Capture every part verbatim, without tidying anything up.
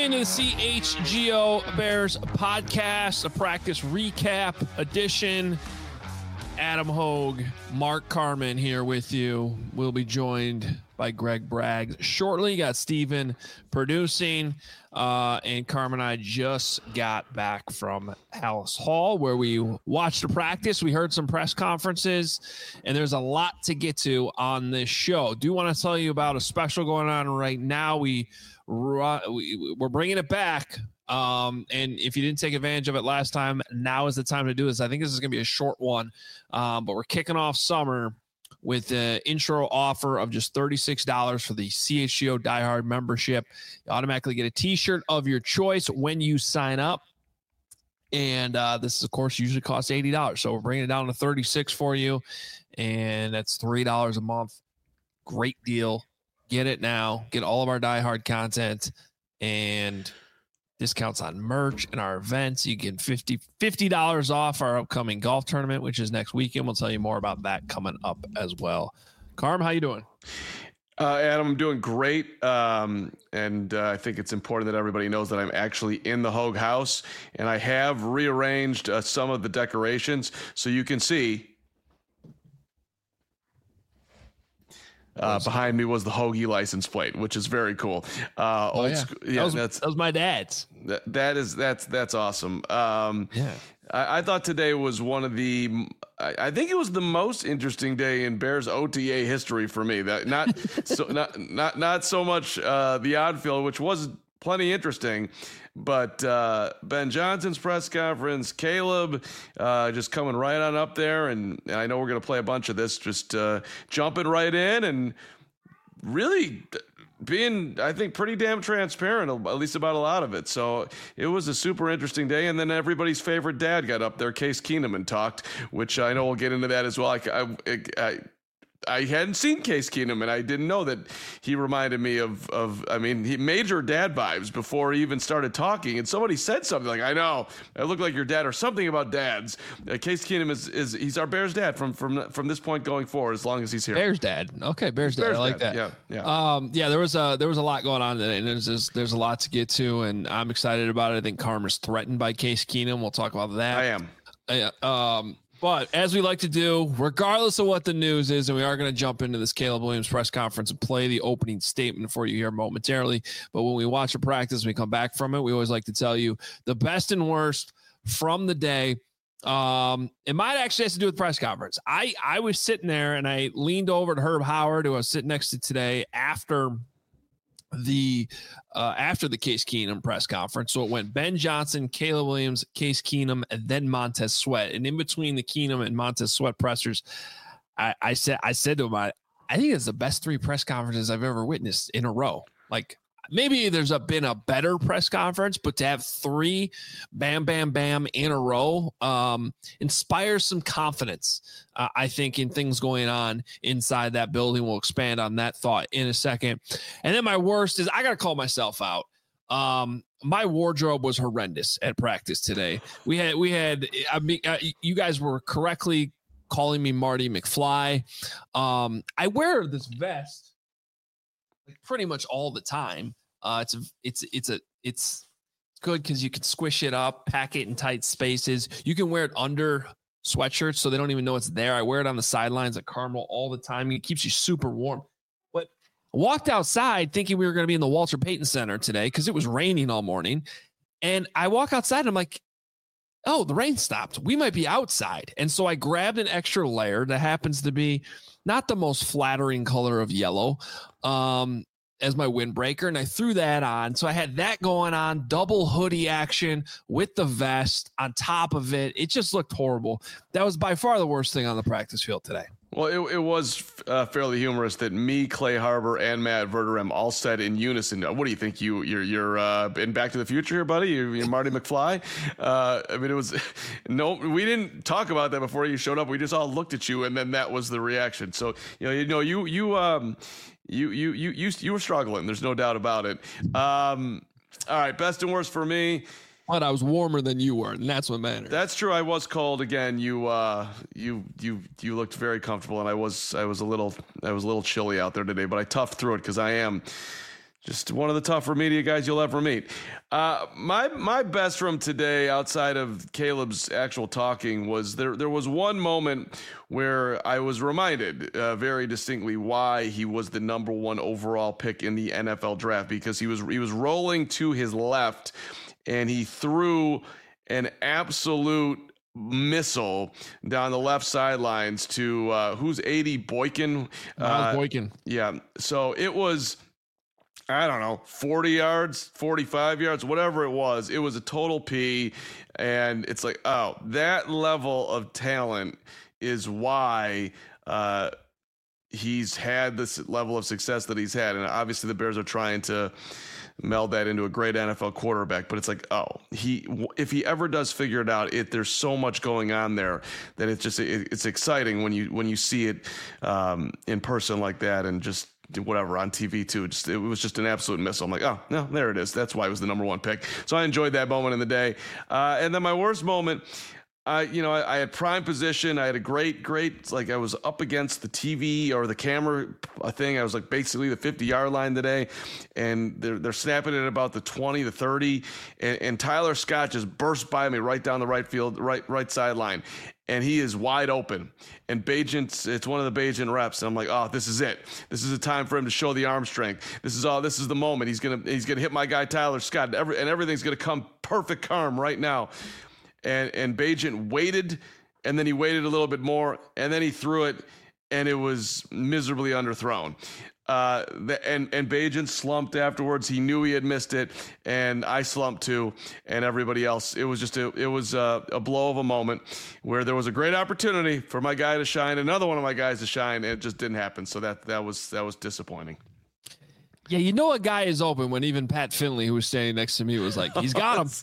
into the C H G O Bears podcast, a practice recap edition. Adam Hogue, Mark Carman here with you. We'll be joined by Greg Bragg shortly. Got Steven producing, uh, and Carmen and I just got back from Halas Hall where we watched the practice. We heard some press conferences, and there's a lot to get to on this show. Do want to tell you about a special going on right now. We, we we're bringing it back. Um, and if you didn't take advantage of it last time, now is the time to do this. I think this is going to be a short one, um, but we're kicking off summer with the intro offer of just thirty-six dollars for the C H G O Die Hard membership. You automatically get a t-shirt of your choice when you sign up. And uh, this, of course, usually costs eighty dollars. So we're bringing it down to thirty-six dollars for you, and that's three dollars a month. Great deal. Get it now. Get all of our Die Hard content and discounts on merch and our events. You get fifty dollars off our upcoming golf tournament, which is next weekend. We'll tell you more about that coming up as well. Carm, how you doing? Uh, Adam, I'm doing great. Um, and uh, I think it's important that everybody knows that I'm actually in the Hogue house, and I have rearranged uh, some of the decorations so you can see. Uh, behind me was the Hoagie license plate, which is very cool. Uh, oh, old yeah. Sc- yeah, that, was, that's, that was my dad's. That, that is that's that's awesome. Um, yeah, I, I thought today was one of the. I, I think it was the most interesting day in Bears O T A history for me. That not so not not not so much uh, the outfield, which was plenty interesting. But uh, Ben Johnson's press conference, Caleb uh, just coming right on up there. And, and I know we're going to play a bunch of this, just uh, jumping right in and really being, I think, pretty damn transparent, at least about a lot of it. So it was a super interesting day. And then everybody's favorite dad got up there, Case Keenum, and talked, which I know we'll get into that as well. I, I, I I hadn't seen Case Keenum, and I didn't know that he reminded me of, of I mean, he major dad vibes before he even started talking. And somebody said something like, I know, I look like your dad, or something about dads. Uh, Case Keenum is, is he's our Bears dad from, from, from this point going forward, as long as he's here. Bears dad. Okay, Bears dad. Bears I like dad. that. Yeah, yeah. Um, yeah, there was a, there was a lot going on today, and there's just, there's a lot to get to, and I'm excited about it. I think Karma's threatened by Case Keenum. We'll talk about that. I am. Uh, um, But as we like to do, regardless of what the news is, and we are going to jump into this Caleb Williams press conference and play the opening statement for you here momentarily. But when we watch a practice, we come back from it, we always like to tell you the best and worst from the day. Um, it might actually have to do with press conference. I, I was sitting there and I leaned over to Herb Howard, who I was sitting next to today after the uh after the Case Keenum press conference. So it went Ben Johnson, Caleb Williams, Case Keenum, and then Montez Sweat. And in between the Keenum and Montez Sweat pressers, I, I said I said to him, I, I think it's the best three press conferences I've ever witnessed in a row. Like, maybe there's a, been a better press conference, but to have three bam, bam, bam in a row um, inspires some confidence, uh, I think, in things going on inside that building. We'll expand on that thought in a second. And then my worst is I got to call myself out. Um, my wardrobe was horrendous at practice today. We had, we had, I mean, uh, you guys were correctly calling me Marty McFly. Um, I wear this vest like pretty much all the time. Uh, it's a, it's, it's a, it's good because you can squish it up, pack it in tight spaces. You can wear it under sweatshirts so they don't even know it's there. I wear it on the sidelines at Carmel all the time. It keeps you super warm. But I walked outside thinking we were going to be in the Walter Payton Center today because it was raining all morning. And I walk outside and I'm like, oh, the rain stopped. We might be outside. And so I grabbed an extra layer that happens to be not the most flattering color of yellow um, as my windbreaker. And I threw that on. So I had that going on, double hoodie action with the vest on top of it. It just looked horrible. That was by far the worst thing on the practice field today. Well, it, it was uh, fairly humorous that me, Clay Harbor, and Matt Verderem all said in unison, "What do you think? You you're you're uh, in Back to the Future here, buddy? You're, you're Marty McFly." Uh, I mean, it was no. We didn't talk about that before you showed up. We just all looked at you, and then that was the reaction. So you know, you know, you you um, you you you you you were struggling. There's no doubt about it. Um, all right, best and worst for me. But I was warmer than you were, and that's what matters. That's true. I was cold again. You, uh, you, you, you looked very comfortable, and I was, I was a little, I was a little chilly out there today, but I toughed through it because I am Just one of the tougher media guys you'll ever meet. Uh, my my best from today, outside of Caleb's actual talking, was there. There was one moment where I was reminded uh, very distinctly why he was the number one overall pick in the N F L draft, because he was he was rolling to his left, and he threw an absolute missile down the left sidelines to uh, who's A D Boykin. Miles uh, Boykin. Yeah. So it was, I don't know, forty yards, forty-five yards, whatever it was. It was a total P. And it's like, oh, that level of talent is why uh, he's had this level of success that he's had. And obviously the Bears are trying to meld that into a great N F L quarterback, but it's like, oh, he, if he ever does figure it out, it, there's so much going on there that it's just, it, it's exciting when you, when you see it um, in person like that, and just whatever on T V too. Just, it was just an absolute missile. I'm like, oh no, there it is. That's why it was the number one pick. So I enjoyed that moment in the day. Uh, and then my worst moment, I, you know, I, I had prime position. I had a great, great, like I was up against the T V or the camera thing. I was like basically the fifty yard line today, and they're, they're snapping it about the twenty, the thirty, and, and Tyler Scott just burst by me right down the right field, right, right sideline. And he is wide open. And Bagent, it's one of the Bagent reps. And I'm like, oh, this is it. This is a time for him to show the arm strength. This is all. This is the moment. He's gonna, he's gonna hit my guy Tyler Scott. Every, and everything's gonna come perfect calm right now. And and Bagent waited, and then he waited a little bit more, and then he threw it, and it was miserably underthrown. Uh, the, and and Bagent slumped afterwards. He knew he had missed it, and I slumped too, and everybody else. It was just a it was a, a blow of a moment where there was a great opportunity for my guy to shine, another one of my guys to shine, and it just didn't happen. So that that was that was disappointing. Yeah, you know a guy is open when even Pat Finley, who was standing next to me, was like, he's got him.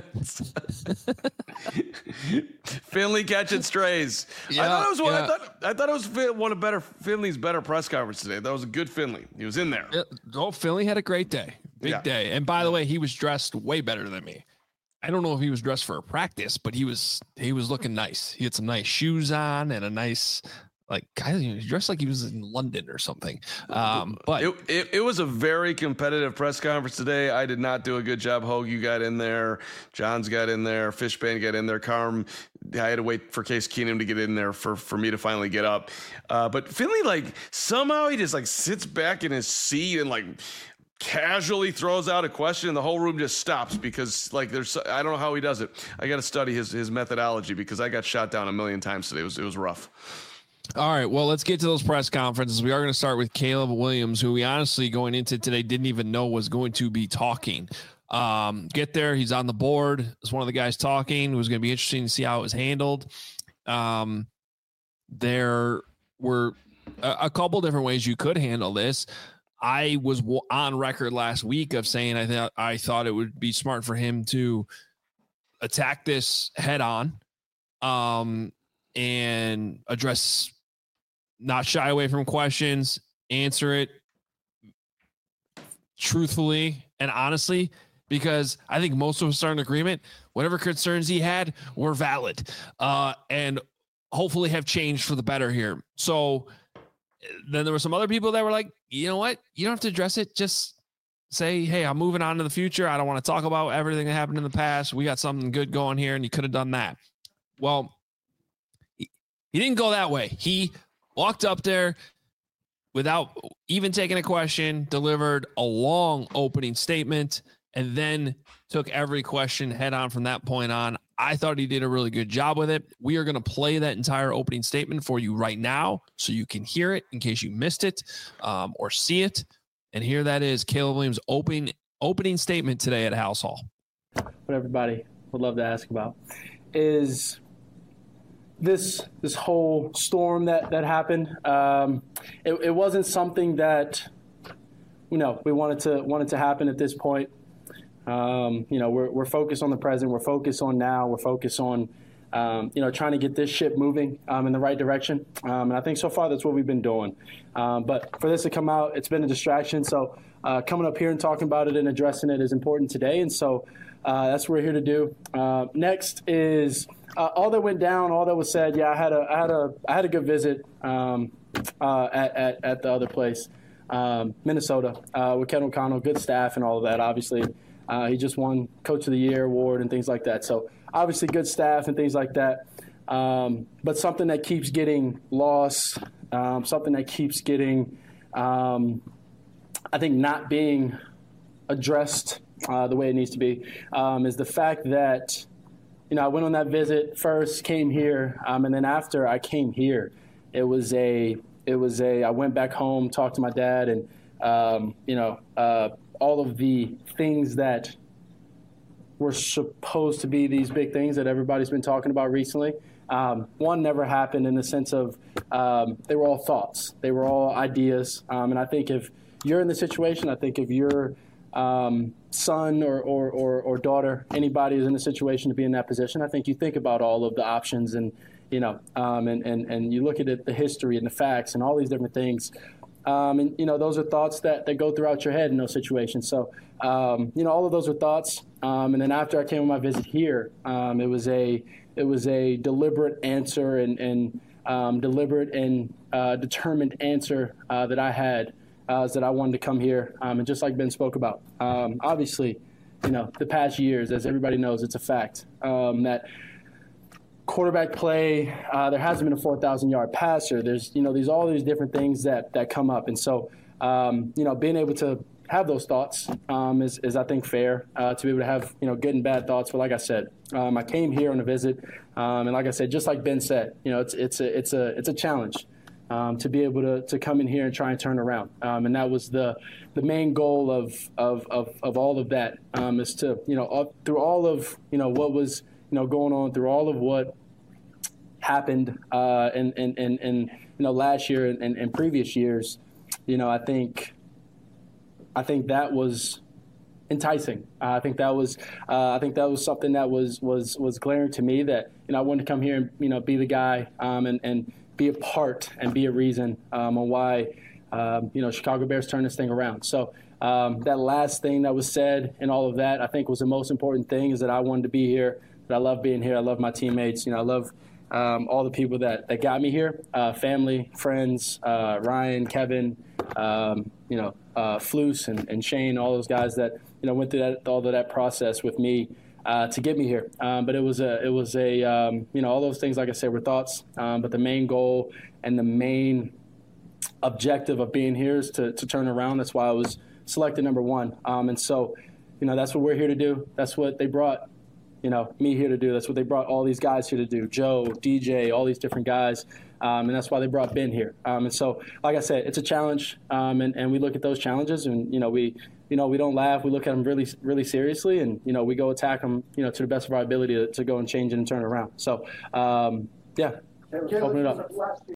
Finley catching strays. Yeah, I thought it was one. Yeah. I thought I thought it was one of better Finley's better press conference today. That was a good Finley. He was in there. Yeah. Oh, Finley had a great day, big yeah. day. And by the way, he was dressed way better than me. I don't know if he was dressed for a practice, but he was he was looking nice. He had some nice shoes on and a nice. Like, guy, he was dressed like he was in London or something. Um, but it, it, it was a very competitive press conference today. I did not do a good job. Hogue, you got in there. Johns got in there. Fishbane got in there. Carm, I had to wait for Case Keenum to get in there for, for me to finally get up. Uh, but Finley, like, somehow he just, like, sits back in his seat and, like, casually throws out a question, and the whole room just stops because, like, there's, I don't know how he does it. I got to study his, his methodology because I got shot down a million times today. It was, it was rough. All right, well, let's get to those press conferences. We are going to start with Caleb Williams, who we honestly, going into today, didn't even know was going to be talking. Um, get there, he's on the board. It's one of the guys talking. It was going to be interesting to see how it was handled. Um, there were a, a couple different ways you could handle this. I was on record last week of saying I thought I thought it would be smart for him to attack this head on, um, and address. Not shy away from questions, answer it truthfully and honestly, because I think most of us are in agreement. Whatever concerns he had were valid, uh, and hopefully have changed for the better here. So then there were some other people that were like, you know what? You don't have to address it. Just say, hey, I'm moving on to the future. I don't want to talk about everything that happened in the past. We got something good going here, and you could have done that. Well, he, he didn't go that way. He walked up there without even taking a question, delivered a long opening statement, and then took every question head on from that point on. I thought he did a really good job with it. We are going to play that entire opening statement for you right now so you can hear it in case you missed it um, or see it. And here that is Caleb Williams' opening, opening statement today at House Hall. What everybody would love to ask about is this this whole storm that, that happened. Um, it, it wasn't something that, you know, we wanted to wanted to happen at this point. Um, you know, we're we're focused on the present. We're focused on now. We're focused on, um, you know, trying to get this ship moving um, in the right direction. Um, and I think so far that's what we've been doing. Um, but for this to come out, it's been a distraction. So uh, coming up here and talking about it and addressing it is important today. And so uh, that's what we're here to do. Uh, next is uh, all that went down, all that was said. Yeah, I had a I had a I had a good visit um, uh, at, at at the other place. um, Minnesota uh, with Kevin O'Connell, good staff and all of that. Obviously, uh, he just won Coach of the Year award and things like that. So obviously, good staff and things like that. Um, but something that keeps getting lost, um, something that keeps getting, um, I think, not being addressed uh, the way it needs to be, um, is the fact that, you know, I went on that visit first, came here, um, and then after I came here, it was a, it was a, I went back home, talked to my dad, and, um, you know, uh, all of the things that were supposed to be these big things that everybody's been talking about recently. Um, one never happened in the sense of um, they were all thoughts. They were all ideas. Um, and I think if you're in the situation, I think if your um, son or, or, or, or daughter, anybody is in a situation to be in that position, I think you think about all of the options and, you know, um, and, and, and you look at it, the history and the facts and all these different things. Um, and, you know, those are thoughts that, that go throughout your head in those situations. So, um, you know, all of those are thoughts. Um, and then after I came on my visit here, um, it was a it was a deliberate answer and, and um, deliberate and uh, determined answer uh, that I had uh, is that I wanted to come here. Um, and just like Ben spoke about, um, obviously, you know, the past years, as everybody knows, it's a fact um, that quarterback play, uh, there hasn't been a four thousand yard passer. There's, you know, these all these different things that, that come up. And so, um, you know, being able to have those thoughts um, is, is, I think, fair uh, to be able to have, you know, good and bad thoughts. But like I said, um, I came here on a visit. Um, and like I said, just like Ben said, you know, it's, it's a, it's a, it's a challenge um, to be able to, to come in here and try and turn around. Um, and that was the, the main goal of, of, of, of all of that um, is to, you know, up, through all of, you know, what was, you know, going on, through all of what happened uh, in, in, in, in, you know, last year and, and, and previous years, you know, I think, I think that was enticing. Uh, I think that was, uh, I think that was something that was, was, was glaring to me that, you know, I wanted to come here and, you know, be the guy um, and, and be a part and be a reason um, on why, um, you know, Chicago Bears turn this thing around. So um, that last thing that was said and all of that, I think was the most important thing is that I wanted to be here, that I love being here. I love my teammates. You know, I love um, all the people that, that got me here, uh, family, friends, uh, Ryan, Kevin, um, you know, uh, Flus and, and Shane, all those guys that, you know, went through that, all of that process with me uh, to get me here. Um, but it was a, it was a, um, you know, all those things, like I said, were thoughts. Um, but the main goal and the main objective of being here is to, to turn around. That's why I was selected number one. Um, and so, you know, that's what we're here to do. That's what they brought, you know, me here to do. That's what they brought all these guys here to do. Joe, D J, all these different guys. Um, and that's why they brought Ben here. Um, and so, like I said, it's a challenge. Um, and, and we look at those challenges and, you know, we, you know, we don't laugh. We look at them really, really seriously. And, you know, we go attack them, you know, to the best of our ability to, to go and change it and turn it around. So, um, yeah, open it up.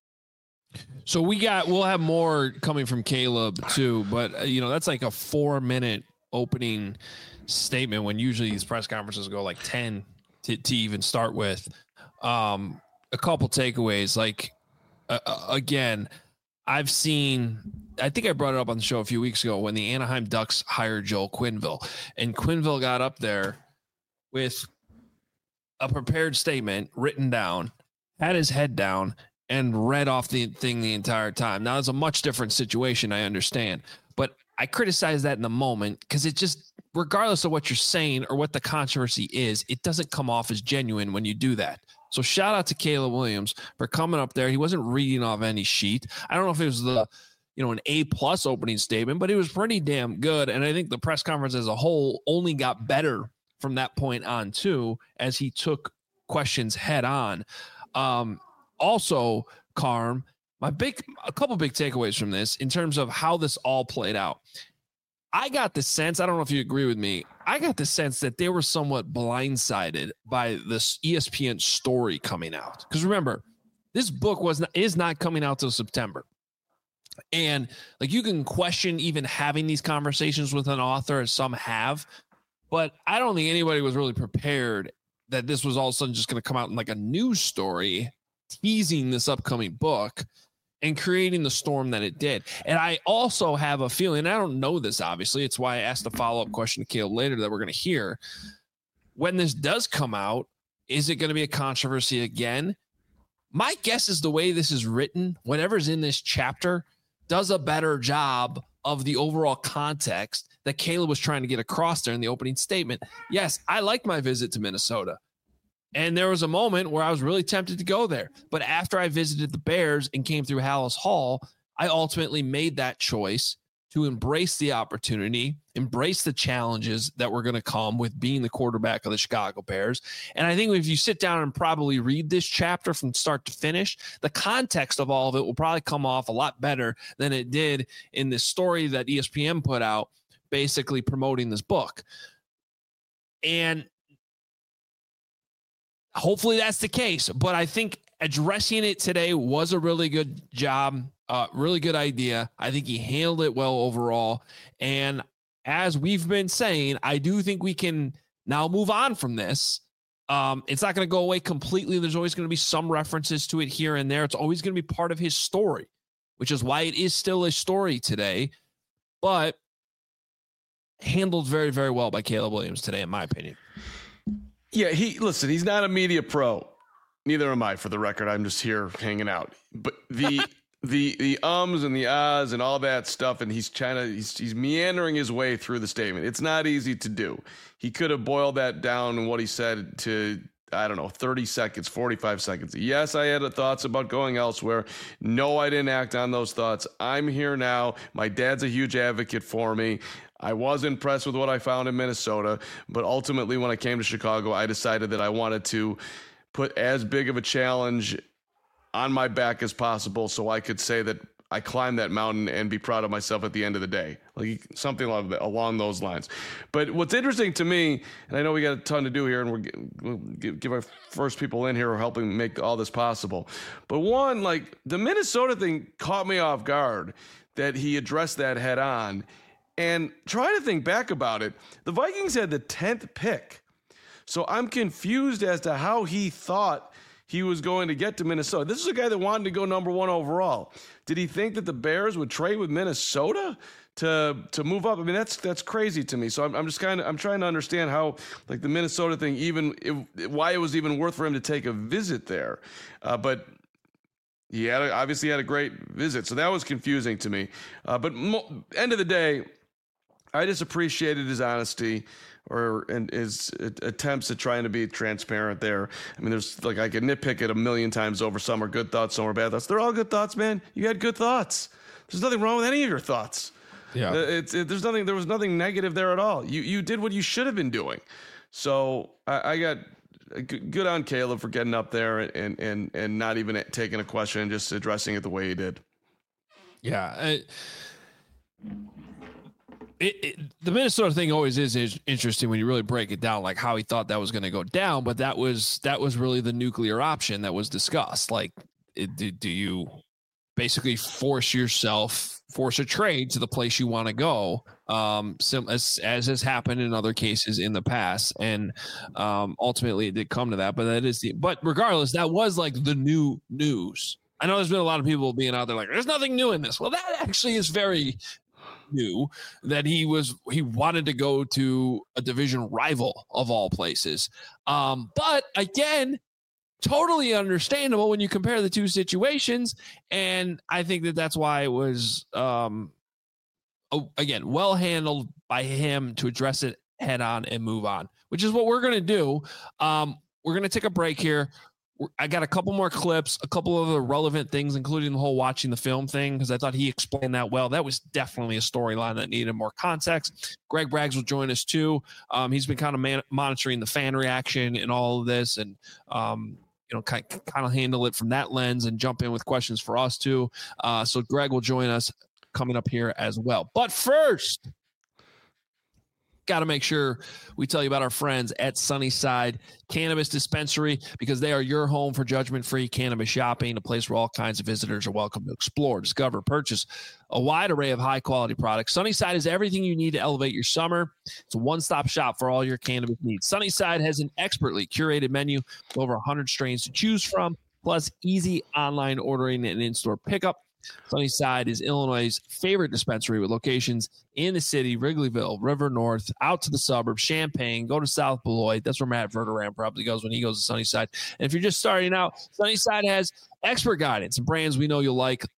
So we got, we'll have more coming from Caleb too, but uh, you know, that's like a four minute opening statement when usually these press conferences go like ten to, to even start with. Um, a couple takeaways, like uh, again, I've seen, I think I brought it up on the show a few weeks ago when the Anaheim Ducks hired Joel Quenneville, and Quenneville got up there with a prepared statement written down, had his head down, and read off the thing the entire time. Now, it's a much different situation, I understand, but I criticize that in the moment because it just, regardless of what you're saying or what the controversy is, it doesn't come off as genuine when you do that. So shout out to Caleb Williams for coming up there. He wasn't reading off any sheet. I don't know if it was the, you know, an A plus opening statement, but it was pretty damn good. And I think the press conference as a whole only got better from that point on too, as he took questions head on. Um, also, Carm, my big, a couple big takeaways from this in terms of how this all played out. I got the sense, I don't know if you agree with me, I got the sense that they were somewhat blindsided by this E S P N story coming out. Because remember, this book was not, is not coming out till September. And like you can question even having these conversations with an author, as some have, but I don't think anybody was really prepared that this was all of a sudden just going to come out in like a news story teasing this upcoming book and creating the storm that it did. And I also have a feeling, I don't know this, obviously, it's why I asked a follow-up question to Caleb later that we're going to hear. When this does come out, is it going to be a controversy again? My guess is the way this is written, whatever's in this chapter does a better job of the overall context that Caleb was trying to get across there in the opening statement. Yes, I liked my visit to Minnesota. And there was a moment where I was really tempted to go there. But after I visited the Bears and came through Hallis Hall, I ultimately made that choice to embrace the opportunity, embrace the challenges that were going to come with being the quarterback of the Chicago Bears. And I think if you sit down and probably read this chapter from start to finish, the context of all of it will probably come off a lot better than it did in this story that E S P N put out, basically promoting this book. And hopefully that's the case. But I think addressing it today was a really good job. Uh, really good idea. I think he handled it well overall. And as we've been saying, I do think we can now move on from this. Um, it's not going to go away completely. There's always going to be some references to it here and there. It's always going to be part of his story, which is why it is still a story today. But handled very, very well by Caleb Williams today, in my opinion. Yeah, he listen, he's not a media pro. Neither am I, for the record. I'm just here hanging out. But the the the ums and the ahs and all that stuff, and he's trying to he's, he's meandering his way through the statement. It's not easy to do. He could have boiled that down in what he said to, I don't know, thirty seconds, forty-five seconds. Yes, I had thoughts about going elsewhere. No, I didn't act on those thoughts. I'm here now. My dad's a huge advocate for me. I was impressed with what I found in Minnesota, but ultimately when I came to Chicago, I decided that I wanted to put as big of a challenge on my back as possible so I could say that I climbed that mountain and be proud of myself at the end of the day, like something along those lines. But what's interesting to me, and I know we got a ton to do here, and we're, we'll give our first people in here who are helping make all this possible. But one, like the Minnesota thing caught me off guard that he addressed that head on. And trying to think back about it, the Vikings had the tenth pick. So I'm confused as to how he thought he was going to get to Minnesota. This is a guy that wanted to go number one overall. Did he think that the Bears would trade with Minnesota to to move up? I mean, that's that's crazy to me. So I'm, I'm just kind of I'm trying to understand how, like, the Minnesota thing, even it, why it was even worth for him to take a visit there. Uh, but he had a, obviously had a great visit, so that was confusing to me. Uh, but mo- end of the day, I just appreciated his honesty or and his attempts at trying to be transparent there. I mean, there's like I could nitpick it a million times over. Some are good thoughts, some are bad thoughts. They're all good thoughts, man. You had good thoughts. There's nothing wrong with any of your thoughts. Yeah, it's it, there's nothing. There was nothing negative there at all. You you did what you should have been doing. So I, I got good on Caleb for getting up there and and and not even taking a question and just addressing it the way he did. Yeah. I, It, it, the Minnesota thing always is, is interesting when you really break it down, like how he thought that was going to go down. But that was that was really the nuclear option that was discussed. Like, it, do, do you basically force yourself, force a trade to the place you want to go, um, sim, as, as has happened in other cases in the past. And um, ultimately it did come to that. But that is the but regardless, that was like the new news. I know there's been a lot of people being out there like, there's nothing new in this. Well, that actually is very knew that he was he wanted to go to a division rival of all places. Um, but again, totally understandable when you compare the two situations. And I think that that's why it was, um, oh, again, well handled by him to address it head on and move on, which is what we're going to do. Um, we're going to take a break here. I got a couple more clips, a couple of the relevant things, including the whole watching the film thing, because I thought he explained that well. That was definitely a storyline that needed more context. Greg Braggs will join us too. Um, he's been kind of man- monitoring the fan reaction and all of this, and um, you know, kind kind of handle it from that lens and jump in with questions for us too. Uh, so Greg will join us coming up here as well. But first, got to make sure we tell you about our friends at Sunnyside Cannabis Dispensary, because they are your home for judgment-free cannabis shopping, a place where all kinds of visitors are welcome to explore, discover, purchase a wide array of high-quality products. Sunnyside is everything you need to elevate your summer. It's a one-stop shop for all your cannabis needs. Sunnyside has an expertly curated menu with over one hundred strains to choose from, plus easy online ordering and in-store pickup. Sunnyside is Illinois' favorite dispensary with locations in the city, Wrigleyville, River North, out to the suburbs, Champaign, go to South Beloit. That's where Matt Verderam probably goes when he goes to Sunnyside. And if you're just starting out, Sunnyside has expert guidance and brands we know you'll like,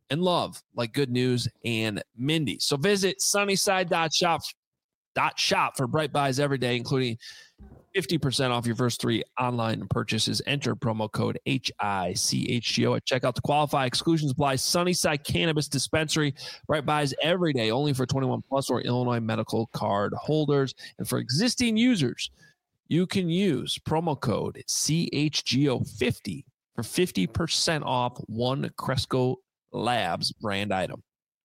and love like Good News and Mindy. So visit sunnyside dot shop dot shop for Bright Buys every day, including fifty percent off your first three online purchases. Enter promo code H I C H G O at checkout to qualify. Exclusions apply. Sunnyside Cannabis Dispensary. Bright Buys every day, only for twenty-one plus or Illinois medical card holders. And for existing users, you can use promo code C H G O fifty for fifty percent off one Cresco Labs brand item.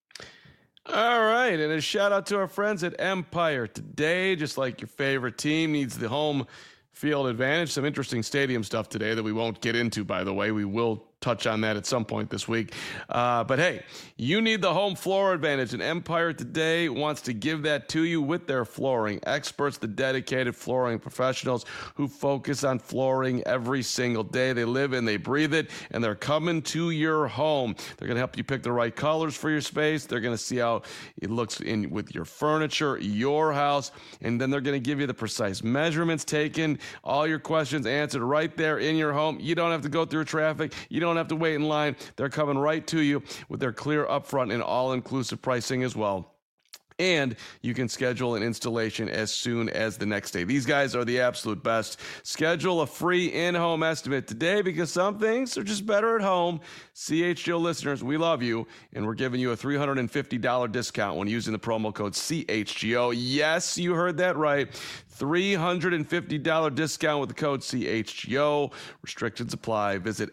All right, and a shout out to our friends at Empire Today. Just like your favorite team needs the home field advantage, some interesting stadium stuff today that we won't get into, by the way. We will touch on that at some point this week. Uh, but hey, you need the home floor advantage, and Empire Today wants to give that to you with their flooring experts, the dedicated flooring professionals who focus on flooring every single day. They live and they breathe it, and they're coming to your home. They're going to help you pick the right colors for your space. They're going to see how it looks in with your furniture, your house, and then they're going to give you the precise measurements taken, all your questions answered right there in your home. You don't have to go through traffic. You don't have to wait in line. They're coming right to you with their clear upfront and all-inclusive pricing as well. And you can schedule an installation as soon as the next day. These guys are the absolute best. Schedule a free in-home estimate today because some things are just better at home. C H G O listeners, we love you, and we're giving you a three hundred fifty dollars discount when using the promo code C H G O. Yes, you heard that right. three hundred fifty dollars discount with the code C H G O. Restrictions apply. Visit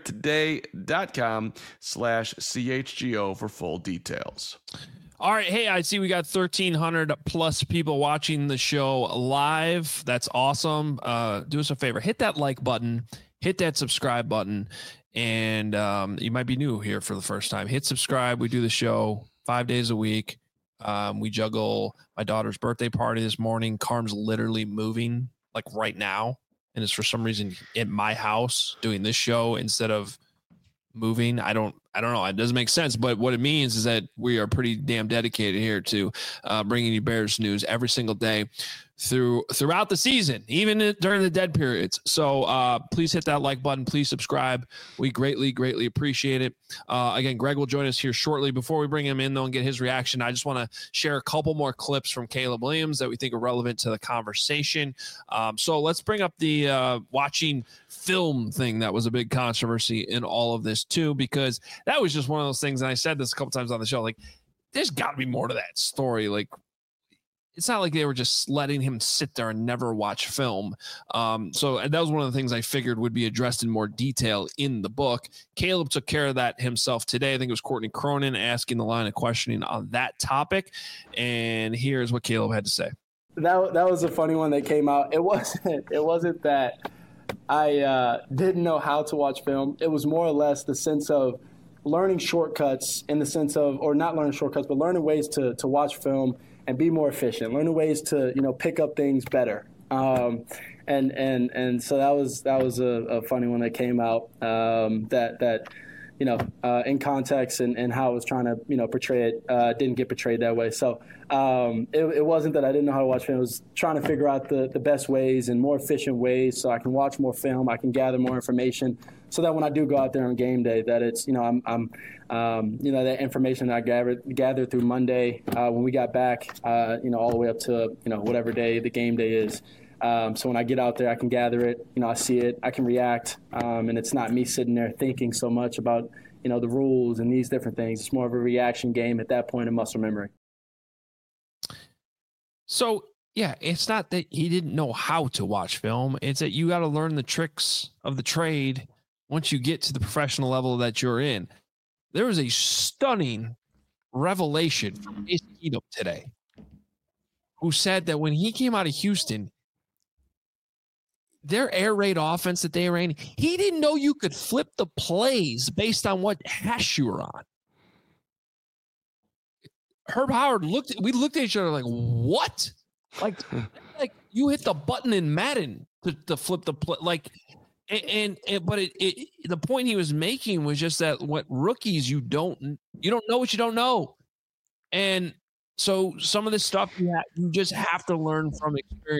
empiretoday.com slash CHGO for full details. All right. Hey, I see we got thirteen hundred plus people watching the show live. That's awesome. Uh, do us a favor. Hit that like button. Hit that subscribe button. And um, you might be new here for the first time. Hit subscribe. We do the show five days a week. Um, we juggle my daughter's birthday party this morning. Carm's literally moving like right now. And it's for some reason in my house doing this show instead of moving. I don't, I don't know. It doesn't make sense, but what it means is that we are pretty damn dedicated here to uh, bringing you Bears news every single day through throughout the season, even during the dead periods. So uh, please hit that like button. Please subscribe. We greatly, greatly appreciate it. Uh, again, Greg will join us here shortly. Before we bring him in, though, and get his reaction, I just want to share a couple more clips from Caleb Williams that we think are relevant to the conversation. Um, so let's bring up the uh, watching film thing that was a big controversy in all of this, too, because that was just one of those things. And I said this a couple times on the show, like, there's got to be more to that story. Like, it's not like they were just letting him sit there and never watch film. Um, so that was one of the things I figured would be addressed in more detail in the book. Caleb took care of that himself today. I think it was Courtney Cronin asking the line of questioning on that topic. And here's what Caleb had to say. That that was a funny one that came out. It wasn't, it wasn't that I uh, didn't know how to watch film. It was more or less the sense of learning shortcuts in the sense of, or not learning shortcuts, but learning ways to to watch film and be more efficient, learning ways to, you know, pick up things better. Um, and, and, and so that was, that was a, a funny one that came out, um, that, that, you know, uh, in context and, and how I was trying to, you know, portray it, uh, didn't get portrayed that way. So um, it, it wasn't that I didn't know how to watch film. It was trying to figure out the, the best ways and more efficient ways so I can watch more film, I can gather more information, so that when I do go out there on game day, that it's, you know, I'm, I'm um, you know, that information that I gathered, gathered through Monday uh, when we got back, uh, you know, all the way up to, you know, whatever day the game day is. Um, so when I get out there, I can gather it, you know, I see it, I can react, um, and it's not me sitting there thinking so much about, you know, the rules and these different things. It's more of a reaction game at that point in muscle memory. So, yeah, it's not that he didn't know how to watch film. It's that you got to learn the tricks of the trade once you get to the professional level that you're in. There was a stunning revelation from Case Keenum today, who said that when he came out of Houston, their air raid offense that they ran, he didn't know you could flip the plays based on what hash you were on. Herb Howard looked, we looked at each other like, what? Like, like you hit the button in Madden to, to flip the play. Like, and, and, and but it, it, the point he was making was just that what rookies, you don't, you don't know what you don't know. And so some of this stuff you, have, you just have to learn from experience.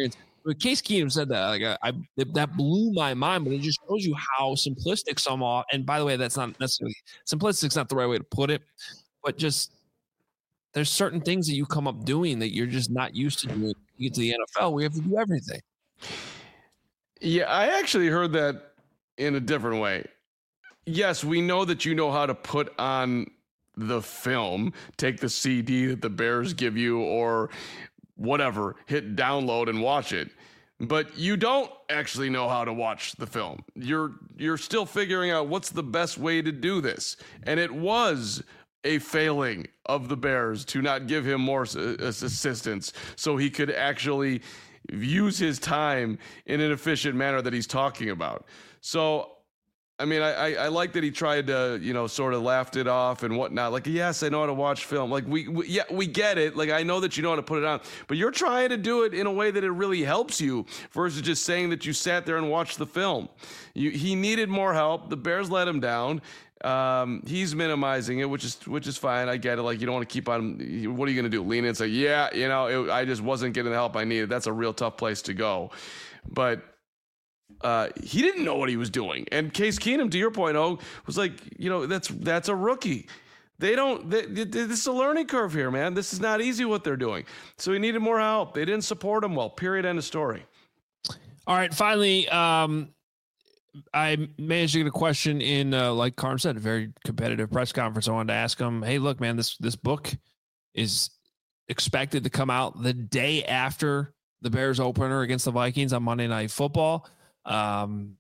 But Case Keenum said that, like, I, I that blew my mind, but it just shows you how simplistic some are. And by the way, that's not necessarily simplistic. It's not the right way to put it, but just there's certain things that you come up doing that you're just not used to doing. You get to the N F L, we have to do everything. Yeah, I actually heard that in a different way. Yes, we know that you know how to put on the film, take the C D that the Bears give you or whatever, hit download and watch it. But you don't actually know how to watch the film. You're you're still figuring out what's the best way to do this. And it was a failing of the Bears to not give him more assistance so he could actually use his time in an efficient manner that he's talking about. So, I mean, I, I, I like that he tried to, you know, sort of laughed it off and whatnot. Like, yes, I know how to watch film. Like, we, we yeah, we get it. Like, I know that you know how to put it on, but you're trying to do it in a way that it really helps you versus just saying that you sat there and watched the film. You, he needed more help. The Bears let him down. Um, he's minimizing it, which is which is fine. I get it. Like, you don't want to keep on. What are you going to do? Lean in and say, yeah, you know, it, I just wasn't getting the help I needed. That's a real tough place to go. But uh, he didn't know what he was doing. And Case Keenum, to your point, oh, was like, you know, that's that's a rookie. They don't. They, they, this is a learning curve here, man. This is not easy what they're doing. So he needed more help. They didn't support him well. Period. End of story. All right. Finally, um, I managed to get a question in, uh, like Carm said, a very competitive press conference. I wanted to ask him, hey, look, man, this this book is expected to come out the day after the Bears opener against the Vikings on Monday Night Football. Um,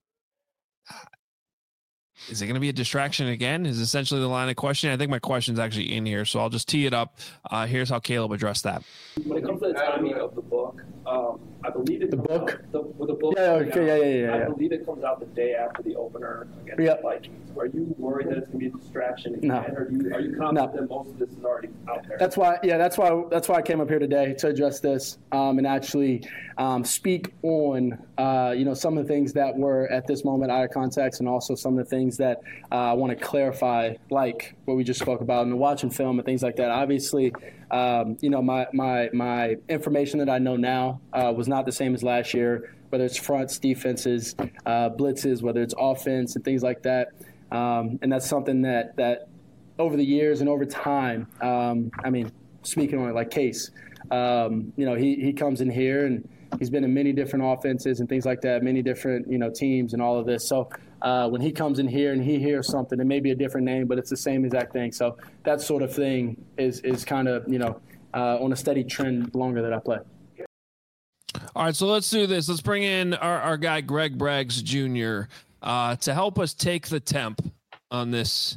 is it going to be a distraction again? Is essentially the line of question. I think my question is actually in here, so I'll just tee it up. Uh, here's how Caleb addressed that. When it comes to the timing of the book, um, I believe it the comes book. Out, the, with the book, yeah, okay, yeah, yeah, yeah, I yeah. believe it comes out the day after the opener against Yep. the Vikings. Are you worried that it's going to be a distraction again, No. or are you, are you confident No. that most of this is already out there? That's why, yeah, that's why, that's why I came up here today to address this um, and actually um, speak on, uh, you know, some of the things that were at this moment out of context, and also some of the things that uh, I want to clarify, like what we just spoke about in the watching film and things like that. Obviously, um, you know, my my my information that I know now uh, was not the same as last year. Whether it's fronts, defenses, uh, blitzes, whether it's offense and things like that. Um, and that's something that, that over the years and over time, um, I mean, speaking on it like Case, um, you know, he, he comes in here and he's been in many different offenses and things like that, many different, you know, teams and all of this. So uh, when he comes in here and he hears something, it may be a different name, but it's the same exact thing. So that sort of thing is, is kind of, you know, uh, on a steady trend longer that I play. All right, so let's do this. Let's bring in our, our guy, Greg Braggs Junior, uh, to help us take the temp on this,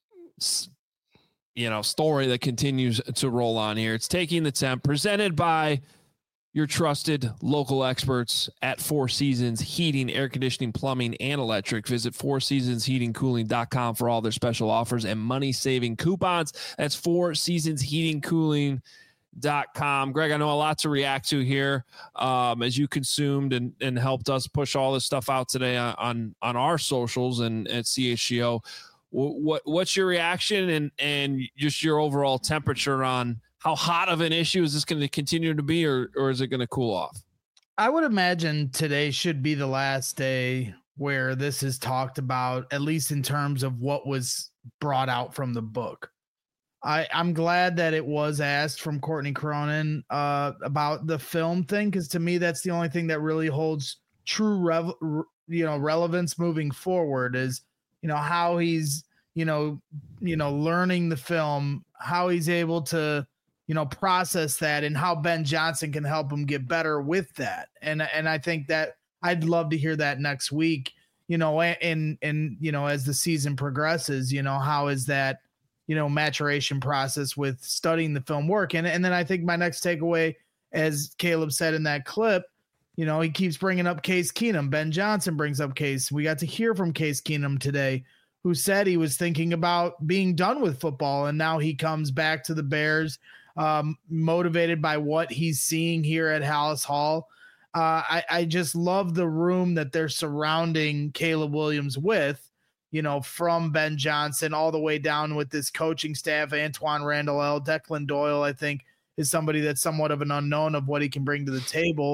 you know, story that continues to roll on here. It's Taking the Temp, presented by your trusted local experts at Four Seasons Heating, Air Conditioning, Plumbing, and Electric. Visit four seasons heating cooling dot com for all their special offers and money-saving coupons. That's Four Seasons Heating Cooling. Dot com. Greg, I know a lot to react to here um, as you consumed and, and helped us push all this stuff out today on on, on our socials and at C H G O. What what's your reaction and and just your overall temperature on how hot of an issue is this going to continue to be, or or is it going to cool off? I would imagine today should be the last day where this is talked about, at least in terms of what was brought out from the book. I, I'm glad that it was asked from Courtney Cronin uh, about the film thing, because to me, that's the only thing that really holds true, rev, you know, relevance moving forward is, you know, how he's, you know, you know, learning the film, how he's able to, you know, process that, and how Ben Johnson can help him get better with that. And and I think that I'd love to hear that next week, you know, and and you know, as the season progresses, you know, how is that, you know, maturation process with studying the film work. And, and then I think my next takeaway, as Caleb said in that clip, you know, he keeps bringing up Case Keenum. Ben Johnson brings up Case. We got to hear from Case Keenum today, who said he was thinking about being done with football. And now he comes back to the Bears, um, motivated by what he's seeing here at Halas Hall. Uh, I, I just love the room that they're surrounding Caleb Williams with, you know, from Ben Johnson all the way down with this coaching staff. Antoine Randall, Declan Doyle, I think, is somebody that's somewhat of an unknown of what he can bring to the table.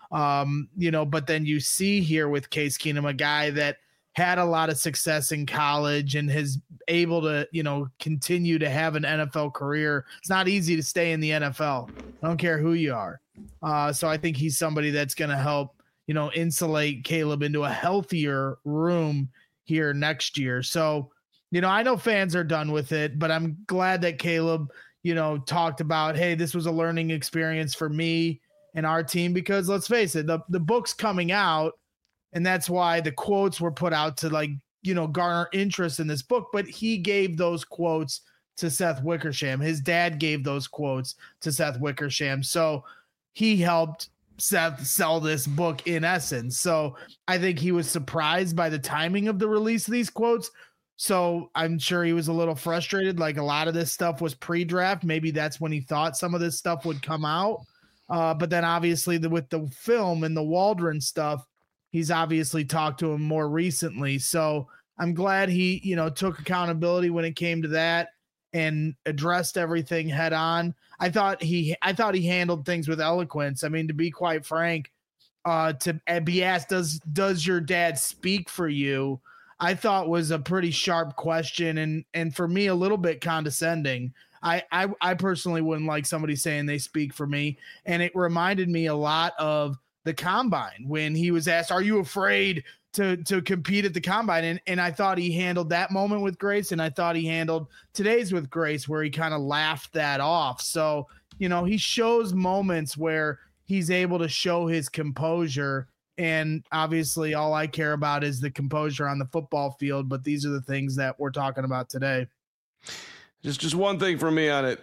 Um, you know, but then you see here with Case Keenum, a guy that had a lot of success in college and has able to, you know, continue to have an N F L career. It's not easy to stay in the N F L. I don't care who you are. Uh, so I think he's somebody that's going to help, you know, insulate Caleb into a healthier room here next year. So, you know, I know fans are done with it, but I'm glad that Caleb, you know, talked about, hey, this was a learning experience for me and our team, because let's face it, the, the book's coming out, and that's why the quotes were put out to, like, you know, garner interest in this book. But he gave those quotes to Seth Wickersham. His dad gave those quotes to Seth Wickersham. So he helped Seth sell this book in essence. So I think he was surprised by the timing of the release of these quotes. So I'm sure he was a little frustrated. Like, a lot of this stuff was pre-draft. Maybe that's when he thought some of this stuff would come out. Uh, but then obviously the, with the film and the Waldron stuff, he's obviously talked to him more recently. So I'm glad he, you know, took accountability when it came to that and addressed everything head on. I thought he, I thought he handled things with eloquence. I mean, to be quite frank, uh, to be asked, does, does your dad speak for you? I thought was a pretty sharp question. And, and for me, a little bit condescending. I, I, I personally wouldn't like somebody saying they speak for me. And it reminded me a lot of the combine when he was asked, are you afraid to, to compete at the combine? And, and I thought he handled that moment with grace. And I thought he handled today's with grace, where he kind of laughed that off. So, you know, he shows moments where he's able to show his composure. And obviously all I care about is the composure on the football field. But these are the things that we're talking about today. Just, just one thing for me on it.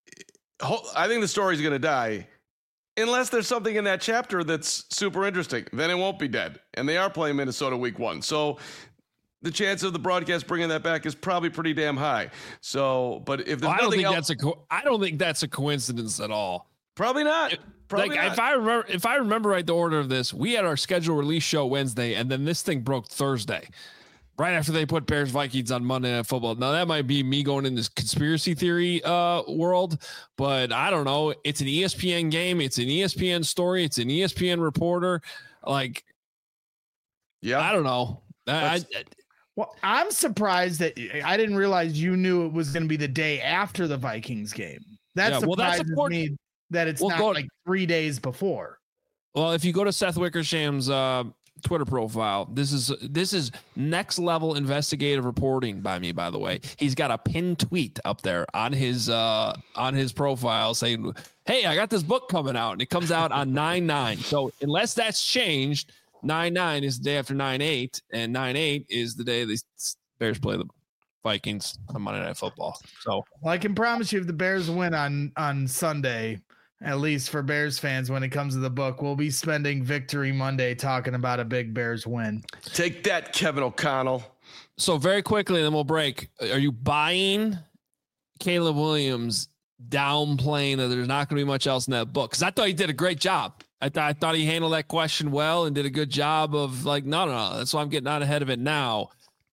I think the story's going to die. Unless there's something in that chapter that's super interesting, then it won't be dead. And they are playing Minnesota week one. So the chance of the broadcast bringing that back is probably pretty damn high. So, but if there's well, I don't think else, that's a co- I don't think that's a coincidence at all. Probably not. Probably like not. if I remember if I remember right, the order of this, we had our scheduled release show Wednesday, and then this thing broke Thursday, right after they put Bears Vikings on Monday Night Football. Now that might be me going in this conspiracy theory uh, world, but I don't know. It's an E S P N game. It's an E S P N story. It's an E S P N reporter. Like, yeah, I don't know. I, I, well, I'm surprised that I didn't realize you knew it was going to be the day after the Vikings game. That yeah, well, surprises that's me that it's we'll not go, like three days before. Well, if you go to Seth Wickersham's uh, Twitter profile, this is this is next level investigative reporting by me, by the way. He's got a pinned tweet up there on his uh, on his profile saying, hey, I got this book coming out, and it comes out on nine nine. So unless that's changed, nine nine is the day after nine eight, and nine eight is the day the Bears play the Vikings on Monday Night Football. So well, I can promise you, if the Bears win on on Sunday, at least for Bears fans, when it comes to the book, we'll be spending Victory Monday talking about a big Bears win. Take that, Kevin O'Connell. So very quickly, and then we'll break. Are you buying Caleb Williams downplaying that there's not going to be much else in that book? Because I thought he did a great job. I, th- I thought he handled that question well and did a good job of like, no, no, no. That's why I'm getting out ahead of it now.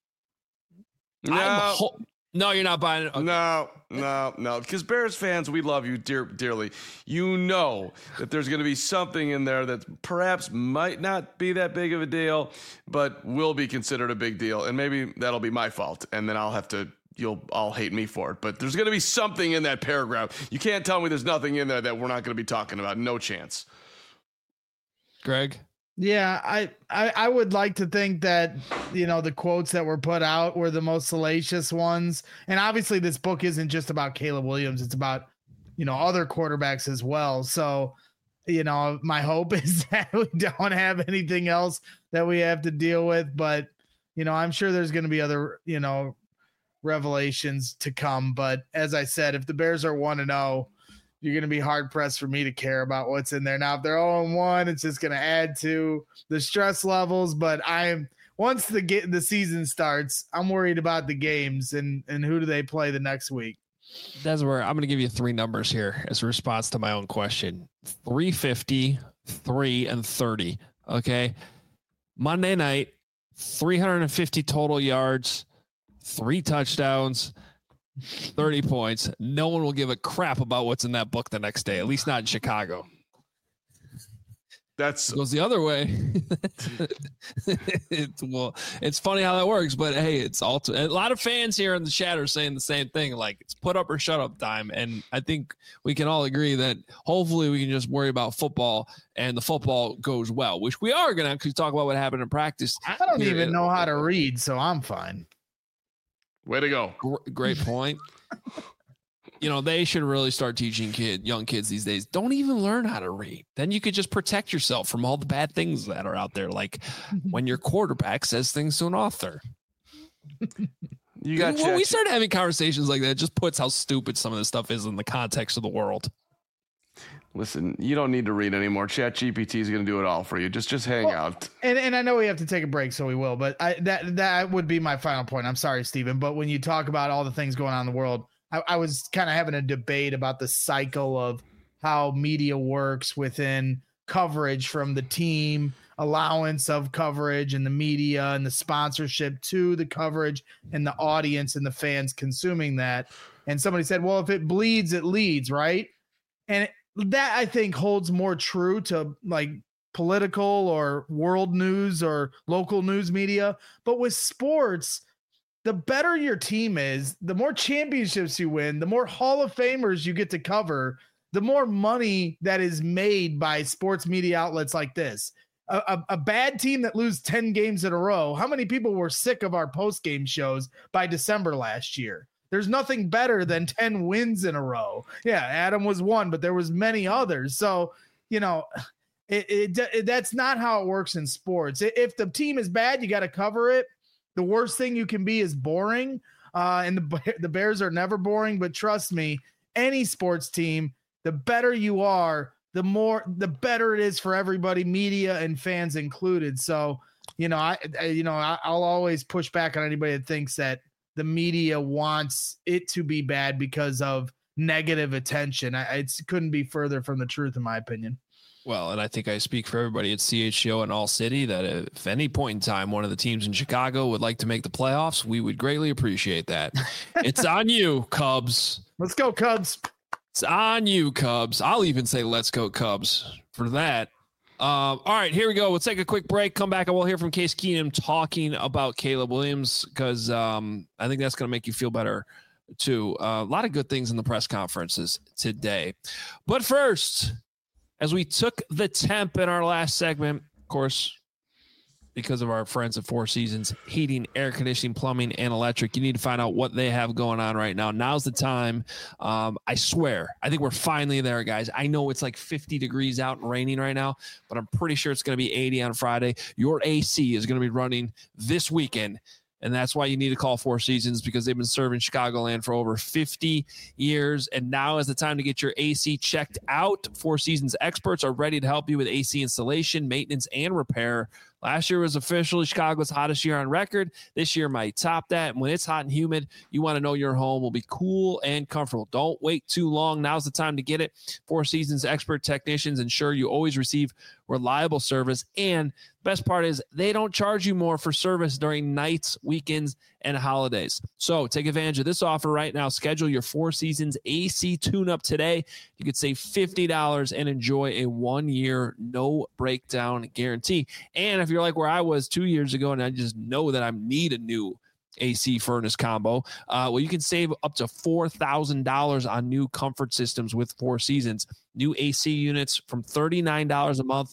No. Ho- no, you're not buying it. Okay. No, no, no. Because Bears fans, we love you dear, dearly. You know that there's going to be something in there that perhaps might not be that big of a deal, but will be considered a big deal. And maybe that'll be my fault. And then I'll have to, you'll all hate me for it. But there's going to be something in that paragraph. You can't tell me there's nothing in there that we're not going to be talking about. No chance. Greg? Yeah, I, I I would like to think that, you know, the quotes that were put out were the most salacious ones. And obviously this book isn't just about Caleb Williams. It's about, you know, other quarterbacks as well. So, you know, my hope is that we don't have anything else that we have to deal with. But, you know, I'm sure there's going to be other, you know, revelations to come. But as I said, if the Bears are one and oh, you're going to be hard pressed for me to care about what's in there. Now, if they're oh and one, it's just going to add to the stress levels. But I am, once the get the season starts, I'm worried about the games and, and who do they play the next week. That's where I'm going to give you three numbers here as a response to my own question. three fifty, three, and thirty. Okay. Monday night, three hundred fifty total yards, three touchdowns, thirty points. No one will give a crap about what's in that book the next day, at least not in Chicago. That's it goes the other way. it's, well, it's funny how that works, but hey, it's all a lot of fans here in the chat are saying the same thing. Like it's put up or shut up time. And I think we can all agree that hopefully we can just worry about football and the football goes well, which we are going to actually talk about what happened in practice. I don't even know how to read, so I'm fine. Way to go. Great point. You know, they should really start teaching kid, young kids these days. Don't even learn how to read. Then you could just protect yourself from all the bad things that are out there. Like when your quarterback says things to an author. You got when we start having conversations like that, it just puts how stupid some of this stuff is in the context of the world. Listen, you don't need to read anymore. Chat G P T is going to do it all for you. Just just hang well, out. And and I know we have to take a break, so we will. But I, that that would be my final point. I'm sorry, Stephen. But when you talk about all the things going on in the world, I, I was kind of having a debate about the cycle of how media works within coverage from the team, allowance of coverage and the media and the sponsorship to the coverage and the audience and the fans consuming that. And somebody said, well, if it bleeds, it leads, right? And that I think holds more true to like political or world news or local news media. But with sports, the better your team is, the more championships you win, the more Hall of Famers you get to cover, the more money that is made by sports media outlets like this. A, a, a bad team that lose ten games in a row. How many people were sick of our post-game shows by December last year? There's nothing better than ten wins in a row. Yeah, Adam was one, but there was many others. So, you know, it, it, it that's not how it works in sports. If the team is bad, you got to cover it. The worst thing you can be is boring. Uh, and the, the Bears are never boring, but trust me, any sports team, the better you are, the more, the better it is for everybody, media and fans included. So, you know, I, I you know, I, I'll always push back on anybody that thinks that the media wants it to be bad because of negative attention. I, it couldn't be further from the truth, in my opinion. Well, and I think I speak for everybody at C H G O and All City that if any point in time one of the teams in Chicago would like to make the playoffs, we would greatly appreciate that. It's on you, Cubs. Let's go, Cubs. It's on you, Cubs. I'll even say let's go, Cubs, for that. Um, all right, here we go. We'll take a quick break. Come back and we'll hear from Case Keenum talking about Caleb Williams because um, I think that's going to make you feel better, too. Uh, a lot of good things in the press conferences today. But first, as we took the temp in our last segment, of course, because of our friends at Four Seasons Heating, Air Conditioning, Plumbing, and Electric, you need to find out what they have going on right now. Now's the time. Um, I swear, I think we're finally there, guys. I know it's like fifty degrees out and raining right now, but I'm pretty sure it's going to be eighty on Friday. Your A C is going to be running this weekend. And that's why you need to call Four Seasons because they've been serving Chicagoland for over fifty years. And now is the time to get your A C checked out. Four Seasons experts are ready to help you with A C installation, maintenance, and repair. Last year was officially Chicago's hottest year on record. This year might top that. And when it's hot and humid, you want to know your home will be cool and comfortable. Don't wait too long. Now's the time to get it. Four Seasons expert technicians ensure you always receive reliable service. And best part is they don't charge you more for service during nights, weekends, and holidays. So take advantage of this offer right now. Schedule your Four Seasons A C tune-up today. You could save fifty dollars and enjoy a one-year no breakdown guarantee. And if you're like where I was two years ago and I just know that I need a new A C furnace combo, uh, well, you can save up to four thousand dollars on new comfort systems with Four Seasons. New A C units from thirty-nine dollars a month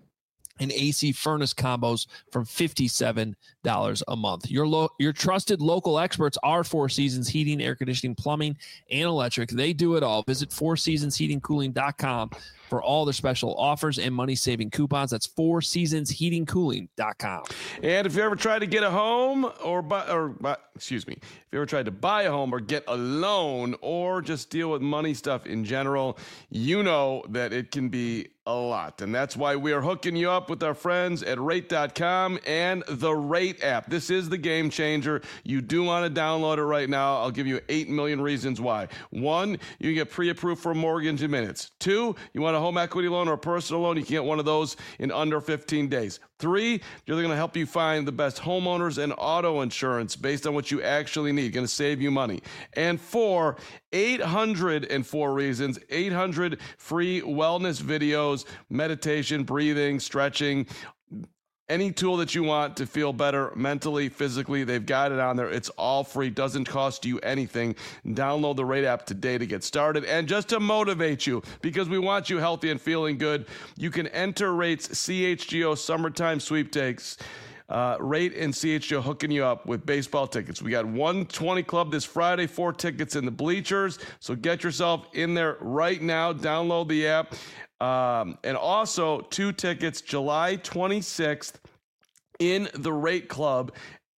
and A C furnace combos from fifty-seven dollars a month. Your lo- your trusted local experts are Four Seasons Heating, Air Conditioning, Plumbing, and Electric. They do it all. Visit four seasons heating cooling dot com for all their special offers and money-saving coupons. That's four seasons heating cooling dot com. And if you ever tried to get a home or buy, or buy, excuse me, if you ever tried to buy a home or get a loan or just deal with money stuff in general, you know that it can be a lot. And that's why we are hooking you up with our friends at rate dot com and the Rate app. This is the game changer. You do want to download it right now. I'll give you eight million reasons why. One, you get pre-approved for a mortgage in minutes. Two, you want want a home equity loan or a personal loan, you can get one of those in under fifteen days. Three, they're going to help you find the best homeowners and auto insurance based on what you actually need. Going to save you money. And four, eight hundred four reasons, eight hundred free wellness videos, meditation, breathing, stretching, any tool that you want to feel better mentally, physically, they've got it on there. It's all free, doesn't cost you anything. Download the Rate app today to get started. And just to motivate you, because we want you healthy and feeling good, you can enter Rate's C H G O Summertime Sweepstakes. Uh, Rate and C H G O hooking you up with baseball tickets. We got one twenty Club this Friday, four tickets in the bleachers. So get yourself in there right now. Download the app. Um, and also two tickets July twenty-sixth in the Rate Club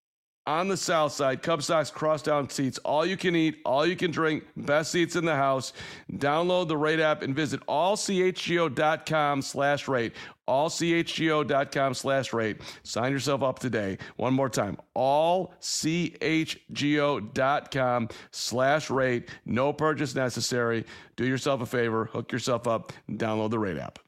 on the south side. Cub Sox cross down seats, all you can eat, all you can drink, best seats in the house. Download the Rate app and visit all c h g o dot com slash rate. all c h g o dot com slash rate. Sign yourself up today. One more time, all c h g o dot com slash rate. No purchase necessary. Do yourself a favor, hook yourself up, and download the Rate app.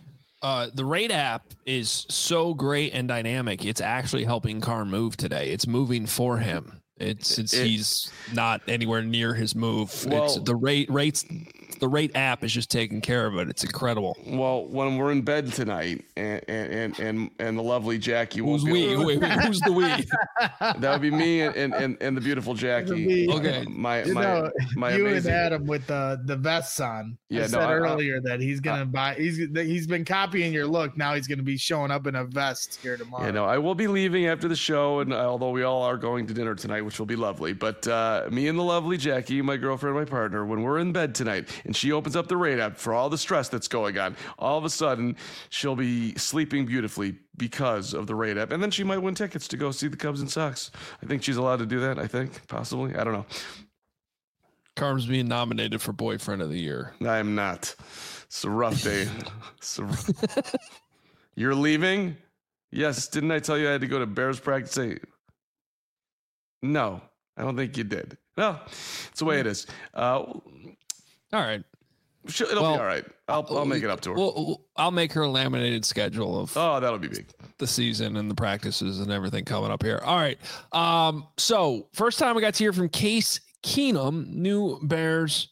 Uh, the Rate app is so great and dynamic. It's actually helping Karn move today. It's moving for him. It's, it's it, he's not anywhere near his move. Well, it's the rate rates. The Rate app is just taking care of it. It's incredible. Well, when we're in bed tonight, and and and and the lovely Jackie, who's we? Wait, wait, who's the we? That would be me and and and the beautiful Jackie. Okay, my you my know, my you amazing. and Adam with the the vests on. Yeah, I no, said I, earlier I, that he's gonna I, buy. He's he's been copying your look. Now he's gonna be showing up in a vest here tomorrow. You know, I will be leaving after the show, and although we all are going to dinner tonight, which will be lovely, but uh, me and the lovely Jackie, my girlfriend, my partner, when we're in bed tonight, and she opens up the Rate app for all the stress that's going on, all of a sudden she'll be sleeping beautifully because of the Rate app, and then she might win tickets to go see the Cubs and Sox. I think she's allowed to do that. I think possibly. I don't know. Carm's being nominated for Boyfriend of the Year. I'm not. It's a rough day. It's a rough... You're leaving? Yes. Didn't I tell you I had to go to Bears practice? Say, no, I don't think you did. No, it's the way it is. Uh, all right. It'll well, be all right. I'll I'll make it up to her. Well, I'll make her a laminated schedule of oh, that'll be big. The season and the practices and everything coming up here. All right. Um. So first time we got to hear from Case Keenum, new Bears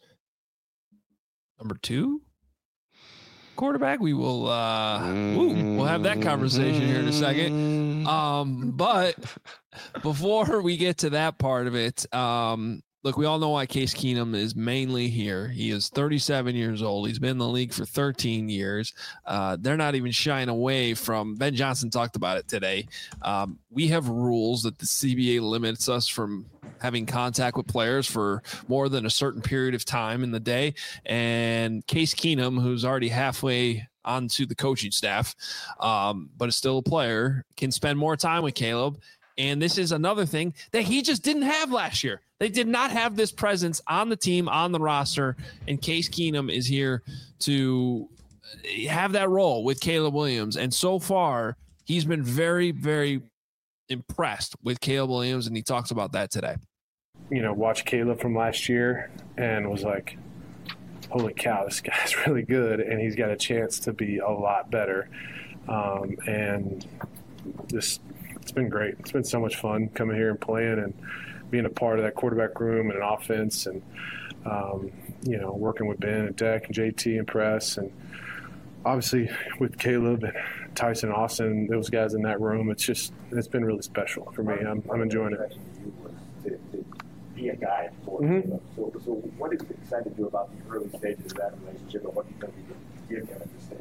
number two quarterback. We will. Uh, ooh, we'll have that conversation here in a second. Um. But before we get to that part of it, um. Look, we all know why Case Keenum is mainly here. He is thirty-seven years old. He's been in the league for thirteen years. Uh, they're not even shying away from, Ben Johnson talked about it today. Um, we have rules that the C B A limits us from having contact with players for more than a certain period of time in the day. And Case Keenum, who's already halfway onto the coaching staff, um, but is still a player, can spend more time with Caleb. And this is another thing that he just didn't have last year. They did not have this presence on the team, on the roster, and Case Keenum is here to have that role with Caleb Williams. And so far, he's been very, very impressed with Caleb Williams, and he talks about that today. You know, watched Caleb from last year and was like, holy cow, this guy's really good, and he's got a chance to be a lot better. Um, and just – it's been great. It's been so much fun coming here and playing and being a part of that quarterback room and an offense and, um, you know, working with Ben and Deck and J T and Press and obviously with Caleb and Tyson Austin, those guys in that room. It's just, it's been really special for me. I'm, I'm enjoying it. To, to be a guy for mm-hmm. so, so what is excited you about the early stages of that relationship and what you're going to be giving him at this stage?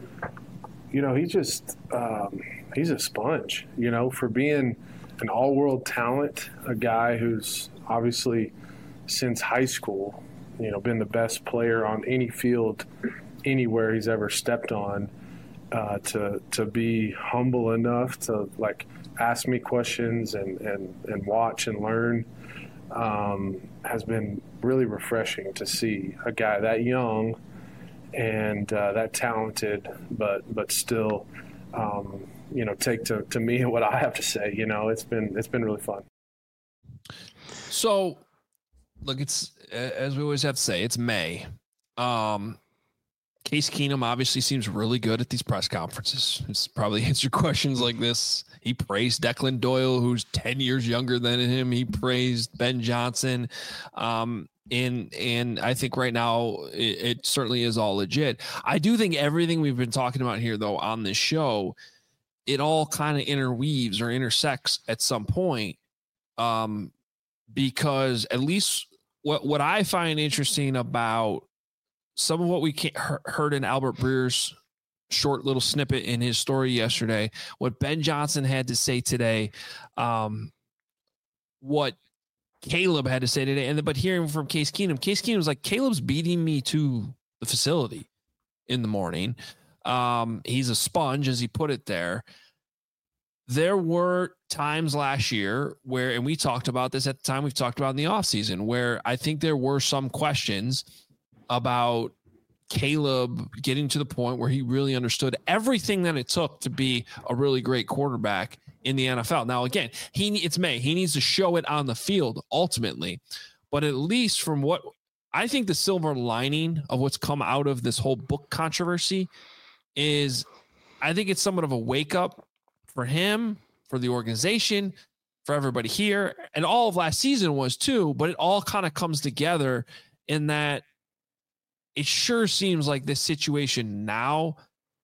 You know, he just um, he's a sponge, you know, for being an all-world talent, a guy who's obviously since high school, you know, been the best player on any field anywhere he's ever stepped on, uh, to to be humble enough to, like, ask me questions and, and, and watch and learn um, has been really refreshing to see a guy that young and uh, that talented, but but still, um, you know, take to, to me and what I have to say. You know, it's been it's been really fun. So, look, it's as we always have to say, it's May. Um, Case Keenum obviously seems really good at these press conferences. It's probably answered questions like this. He praised Declan Doyle, who's ten years younger than him. He praised Ben Johnson. Um, and, and I think right now it, it certainly is all legit. I do think everything we've been talking about here, though, on this show, it all kind of interweaves or intersects at some point. Um, because at least what, what I find interesting about some of what we heard in Albert Breer's short little snippet in his story yesterday, what Ben Johnson had to say today, um, what Caleb had to say today, and but hearing from Case Keenum, Case Keenum was like, Caleb's beating me to the facility in the morning. Um, he's a sponge, as he put it there. There were times last year where, and we talked about this at the time, we've talked about in the offseason, where I think there were some questions about Caleb getting to the point where he really understood everything that it took to be a really great quarterback in the N F L. Now, again, he it's May. He needs to show it on the field ultimately. But at least from what I think the silver lining of what's come out of this whole book controversy is I think it's somewhat of a wake up for him, for the organization, for everybody here. And all of last season was too, but it all kind of comes together in that it sure seems like this situation now,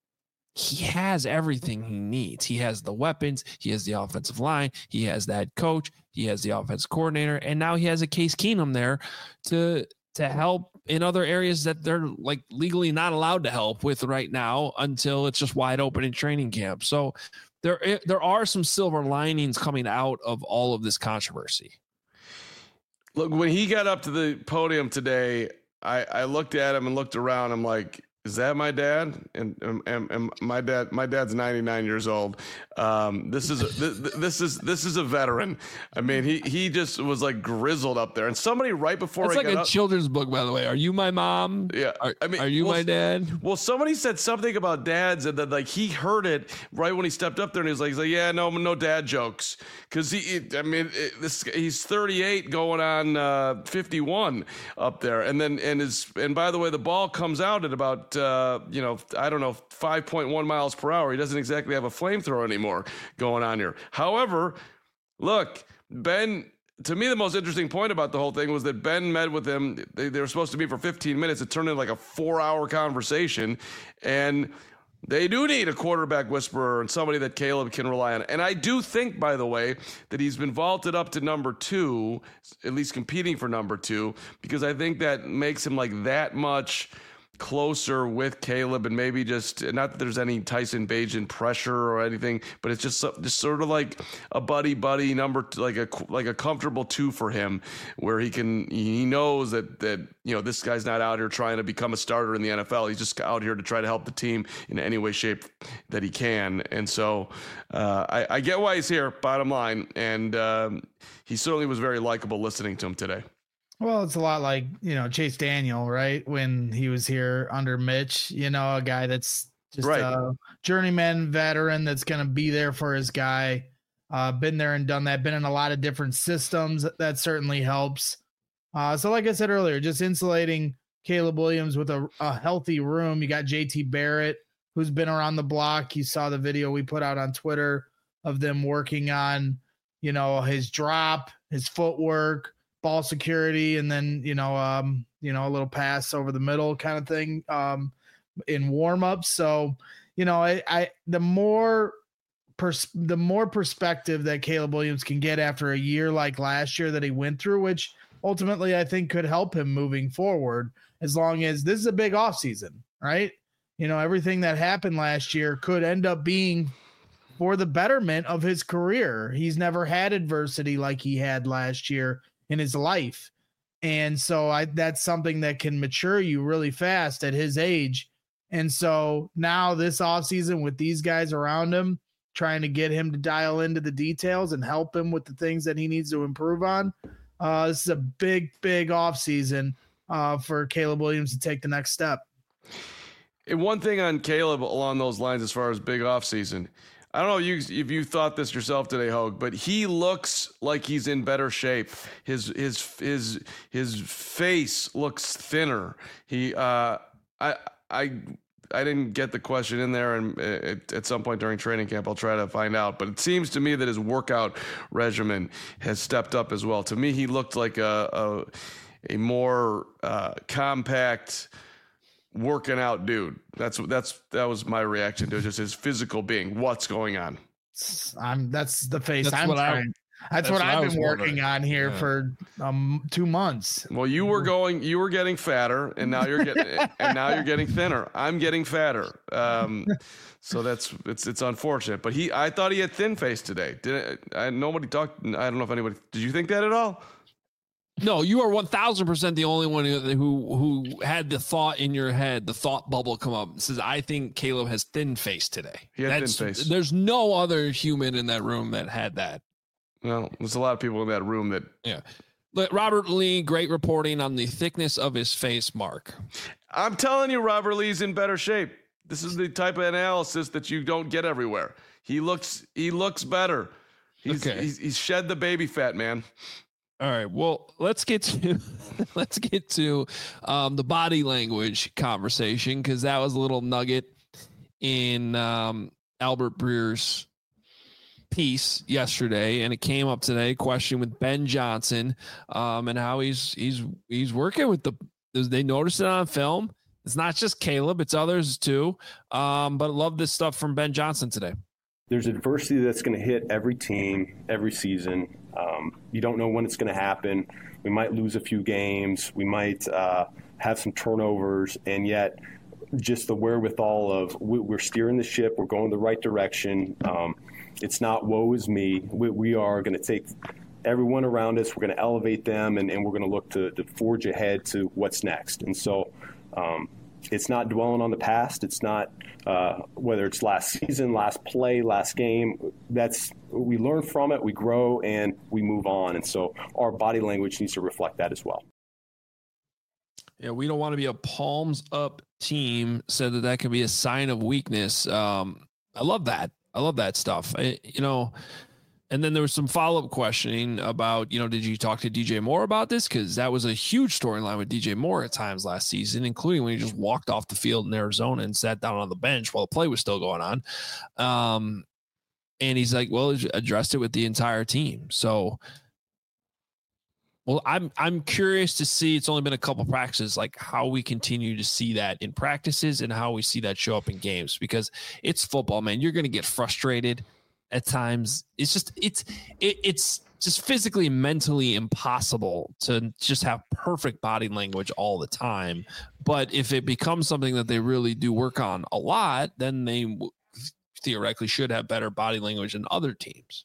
he has everything he needs. He has the weapons. He has the offensive line. He has the head coach. He has the offensive coordinator. And now he has a Case Keenum there to, to help in other areas that they're like legally not allowed to help with right now until it's just wide open in training camp. So there, there are some silver linings coming out of all of this controversy. Look, when he got up to the podium today, I, I looked at him and looked around. I'm like, is that my dad? And, and, and my dad, my dad's ninety-nine years old. Um, this is, a, this, this is, this is a veteran. I mean, he, he just was like grizzled up there, and somebody right before it's I like got a up, children's book, by the way. Are you my mom? Yeah. Are, I mean, are you well, my dad? Well, somebody said something about dads, and then like he heard it right when he stepped up there, and he was like, he's like, yeah, no, no dad jokes. Cause he, he I mean, it, this, he's thirty-eight going on uh, fifty-one up there. And then, and his, and by the way, the ball comes out at about, uh, you know, I don't know, five point one miles per hour. He doesn't exactly have a flamethrower anymore going on here. However, look, Ben, to me, the most interesting point about the whole thing was that Ben met with him. They, they were supposed to meet for fifteen minutes. It turned into like a four hour conversation. And they do need a quarterback whisperer and somebody that Caleb can rely on. And I do think, by the way, that he's been vaulted up to number two, at least competing for number two, because I think that makes him like that much closer with Caleb, and maybe just not that there's any Tyson Bagent pressure or anything, but it's just just sort of like a buddy buddy number, like a like a comfortable two for him, where he can he knows that that you know this guy's not out here trying to become a starter in the N F L. He's just out here to try to help the team in any way, shape that he can. And so uh, I, I get why he's here. Bottom line, and um, he certainly was very likable listening to him today. Well, it's a lot like, you know, Chase Daniel, right? When he was here under Mitch, you know, a guy that's just right. a journeyman veteran that's going to be there for his guy. Uh, been there and done that, been in a lot of different systems. That certainly helps. Uh, so like I said earlier, just insulating Caleb Williams with a, a healthy room. You got J T Barrett, who's been around the block. You saw the video we put out on Twitter of them working on, you know, his drop, his footwork, ball security, and then, you know, um, you know, a little pass over the middle kind of thing um, in warm-ups. So, you know, I, I the more pers- the more perspective that Caleb Williams can get after a year like last year that he went through, which ultimately I think could help him moving forward, as long as this is a big offseason, right? You know, everything that happened last year could end up being for the betterment of his career. He's never had adversity like he had last year in his life. And so I, that's something that can mature you really fast at his age. And so now this offseason with these guys around him, trying to get him to dial into the details and help him with the things that he needs to improve on. Uh, this is a big, big offseason uh, for Caleb Williams to take the next step. And one thing on Caleb along those lines, as far as big offseason, I don't know if you, if you thought this yourself today, Hogue, but he looks like he's in better shape. His his his his face looks thinner. He uh, I I I didn't get the question in there, and at, at some point during training camp, I'll try to find out. But it seems to me that his workout regimen has stepped up as well. To me, he looked like a a, a more uh, compact, working out dude. That's that's that was my reaction to just his physical being. What's going on? I'm that's the face That's I'm what I- trying. That's, That's what, what I I've was been working wondering. on here Yeah. for um two months. Well, you were going, you were getting fatter, and now you're getting, and now you're getting thinner. I'm getting fatter. Um, so that's it's it's unfortunate. But he, I thought he had thin face today. Did I? Nobody talked. I don't know if anybody. Did you think that at all? No, you are one thousand percent the only one who, who who had the thought in your head, the thought bubble come up. It says, I think Caleb has thin face today. He had That's, thin face. There's no other human in that room that had that. Well, there's a lot of people in that room that. Yeah. But Robert Lee, great reporting on the thickness of his face, Mark. I'm telling you, Robert Lee's in better shape. This is the type of analysis that you don't get everywhere. He looks, he looks better. He's, Okay. he's, he's shed the baby fat, man. All right. Well, let's get to let's get to um, the body language conversation, because that was a little nugget in um, Albert Breer's piece yesterday, and it came up today. Question with Ben Johnson um, and how he's he's he's working with the. They noticed it on film. It's not just Caleb; it's others too. Um, but I love this stuff from Ben Johnson today. There's adversity that's going to hit every team every season. Um, you don't know when it's going to happen. We might lose a few games. We might uh, have some turnovers, and yet just the wherewithal of we, we're steering the ship. We're going the right direction. Um, it's not woe is me. We, we are going to take everyone around us. We're going to elevate them, and, and we're going to look to, to forge ahead to what's next. And so um, it's not dwelling on the past. It's not uh, whether it's last season, last play, last game. That's we learn from it, we grow, and we move on. And so our body language needs to reflect that as well. Yeah, we don't want to be a palms up team. Said that that can be a sign of weakness. Um, I love that. I love that stuff. I, you know, and then there was some follow up questioning about, you know, did you talk to D J Moore about this? Because that was a huge storyline with D J Moore at times last season, including when he just walked off the field in Arizona and sat down on the bench while the play was still going on. Um, and he's like, well, addressed it with the entire team. So, well, I'm I'm curious to see. It's only been a couple practices, like how we continue to see that in practices and how we see that show up in games, because it's football, man. You're going to get frustrated at times. It's just it's it, it's just physically, mentally impossible to just have perfect body language all the time. But if it becomes something that they really do work on a lot, then they theoretically should have better body language than other teams.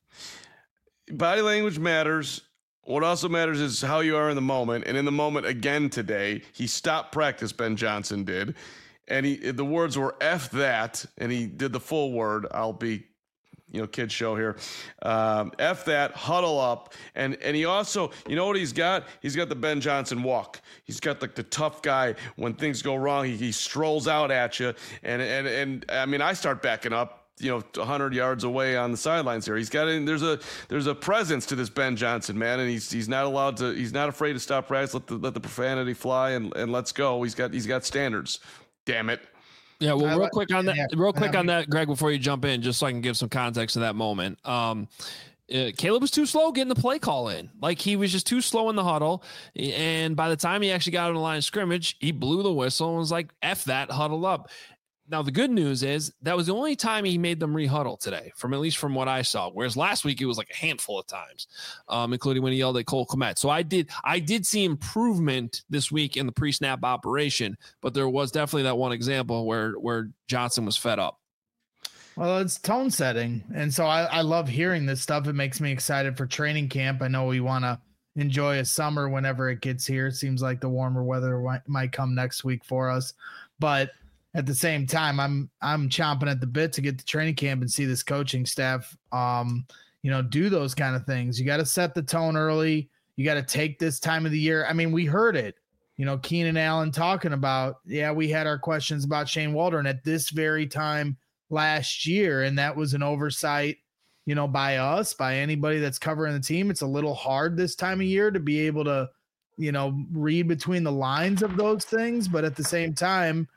Body language matters. What also matters is how you are in the moment. And in the moment again today, he stopped practice, Ben Johnson did. And he the words were F that, and he did the full word. I'll be, you know, kid show here. Um, F that, huddle up. And and he also, you know what he's got? He's got the Ben Johnson walk. He's got like the tough guy. When things go wrong, he, he strolls out at you. And, and, and I mean, I start backing up, you know, one hundred yards away on the sidelines here. He's got in, there's a there's a presence to this Ben Johnson, man, and he's he's not allowed to he's not afraid to stop practice, let the let the profanity fly, and, and let's go. He's got he's got standards. Damn it. Yeah, well, I real like- quick on that, yeah, real quick I on mean- that, Greg, before you jump in, just so I can give some context to that moment. Um, uh, Caleb was too slow getting the play call in. Like, he was just too slow in the huddle. And by the time he actually got on the line of scrimmage, he blew the whistle and was like, F that, huddle up. Now, the good news is that was the only time he made them re-huddle today, from at least from what I saw. Whereas last week, it was like a handful of times, um, including when he yelled at Cole Kmet. So I did I did see improvement this week in the pre-snap operation, but there was definitely that one example where where Johnson was fed up. Well, it's tone setting. And so I, I love hearing this stuff. It makes me excited for training camp. I know we want to enjoy a summer whenever it gets here. It seems like the warmer weather might, might come next week for us. But at the same time, I'm I'm chomping at the bit to get to training camp and see this coaching staff, um, you know, do those kind of things. You got to set the tone early. You got to take this time of the year. I mean, we heard it, you know, Keenan Allen talking about, yeah, we had our questions about Shane Waldron at this very time last year, and that was an oversight, you know, by us, by anybody that's covering the team. It's a little hard this time of year to be able to, you know, read between the lines of those things, but at the same time,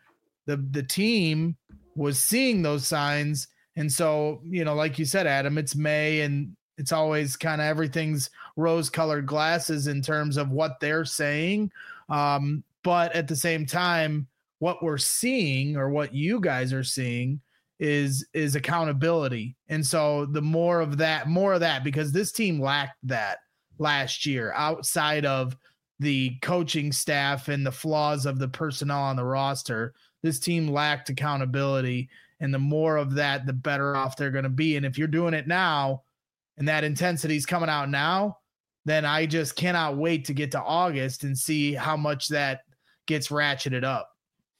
the the team was seeing those signs. And so, you know, like you said, Adam, it's May and it's always kind of everything's rose colored glasses in terms of what they're saying. Um, but at the same time, what we're seeing or what you guys are seeing is, is accountability. And so the more of that, more of that, because this team lacked that last year outside of the coaching staff and the flaws of the personnel on the roster. This team lacked accountability, and the more of that, the better off they're going to be. And if you're doing it now and that intensity is coming out now, then I just cannot wait to get to August and see how much that gets ratcheted up.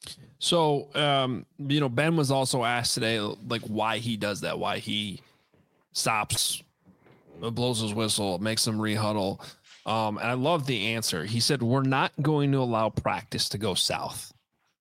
So, um, you know, Ben was also asked today, like, why he does that, why he stops, blows his whistle, makes them rehuddle. Um, and I love the answer. He said, we're not going to allow practice to go south.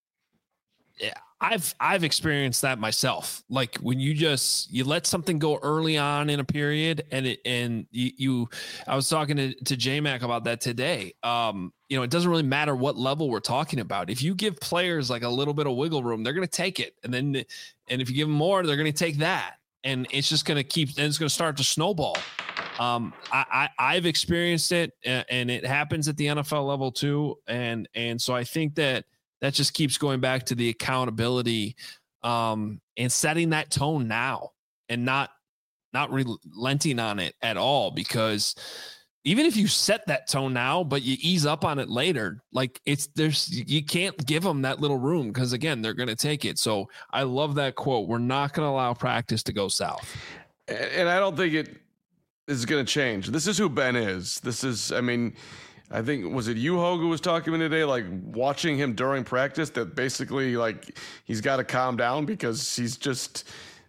Yeah, I've, I've experienced that myself. Like when you just, you let something go early on in a period and it, and you, you I was talking to, to J-Mac about that today. Um, you know, it doesn't really matter what level we're talking about. If you give players like a little bit of wiggle room, they're going to take it. And then, and if you give them more, they're going to take that. And it's just going to keep, and it's going to start to snowball. Um, I, I, I've experienced it, and it happens at the N F L level too. And, and so I think that that just keeps going back to the accountability, um, and setting that tone now and not, not relenting on it at all, because even if you set that tone now, but you ease up on it later, like it's, there's, you can't give them that little room because again, they're going to take it. So I love that quote. We're not going to allow practice to go south. And I don't think it is going to change. This is who Ben is. This is, I mean, I think, was it you, Hogue, who was talking to me today, like watching him during practice, that basically like he's got to calm down because he's just,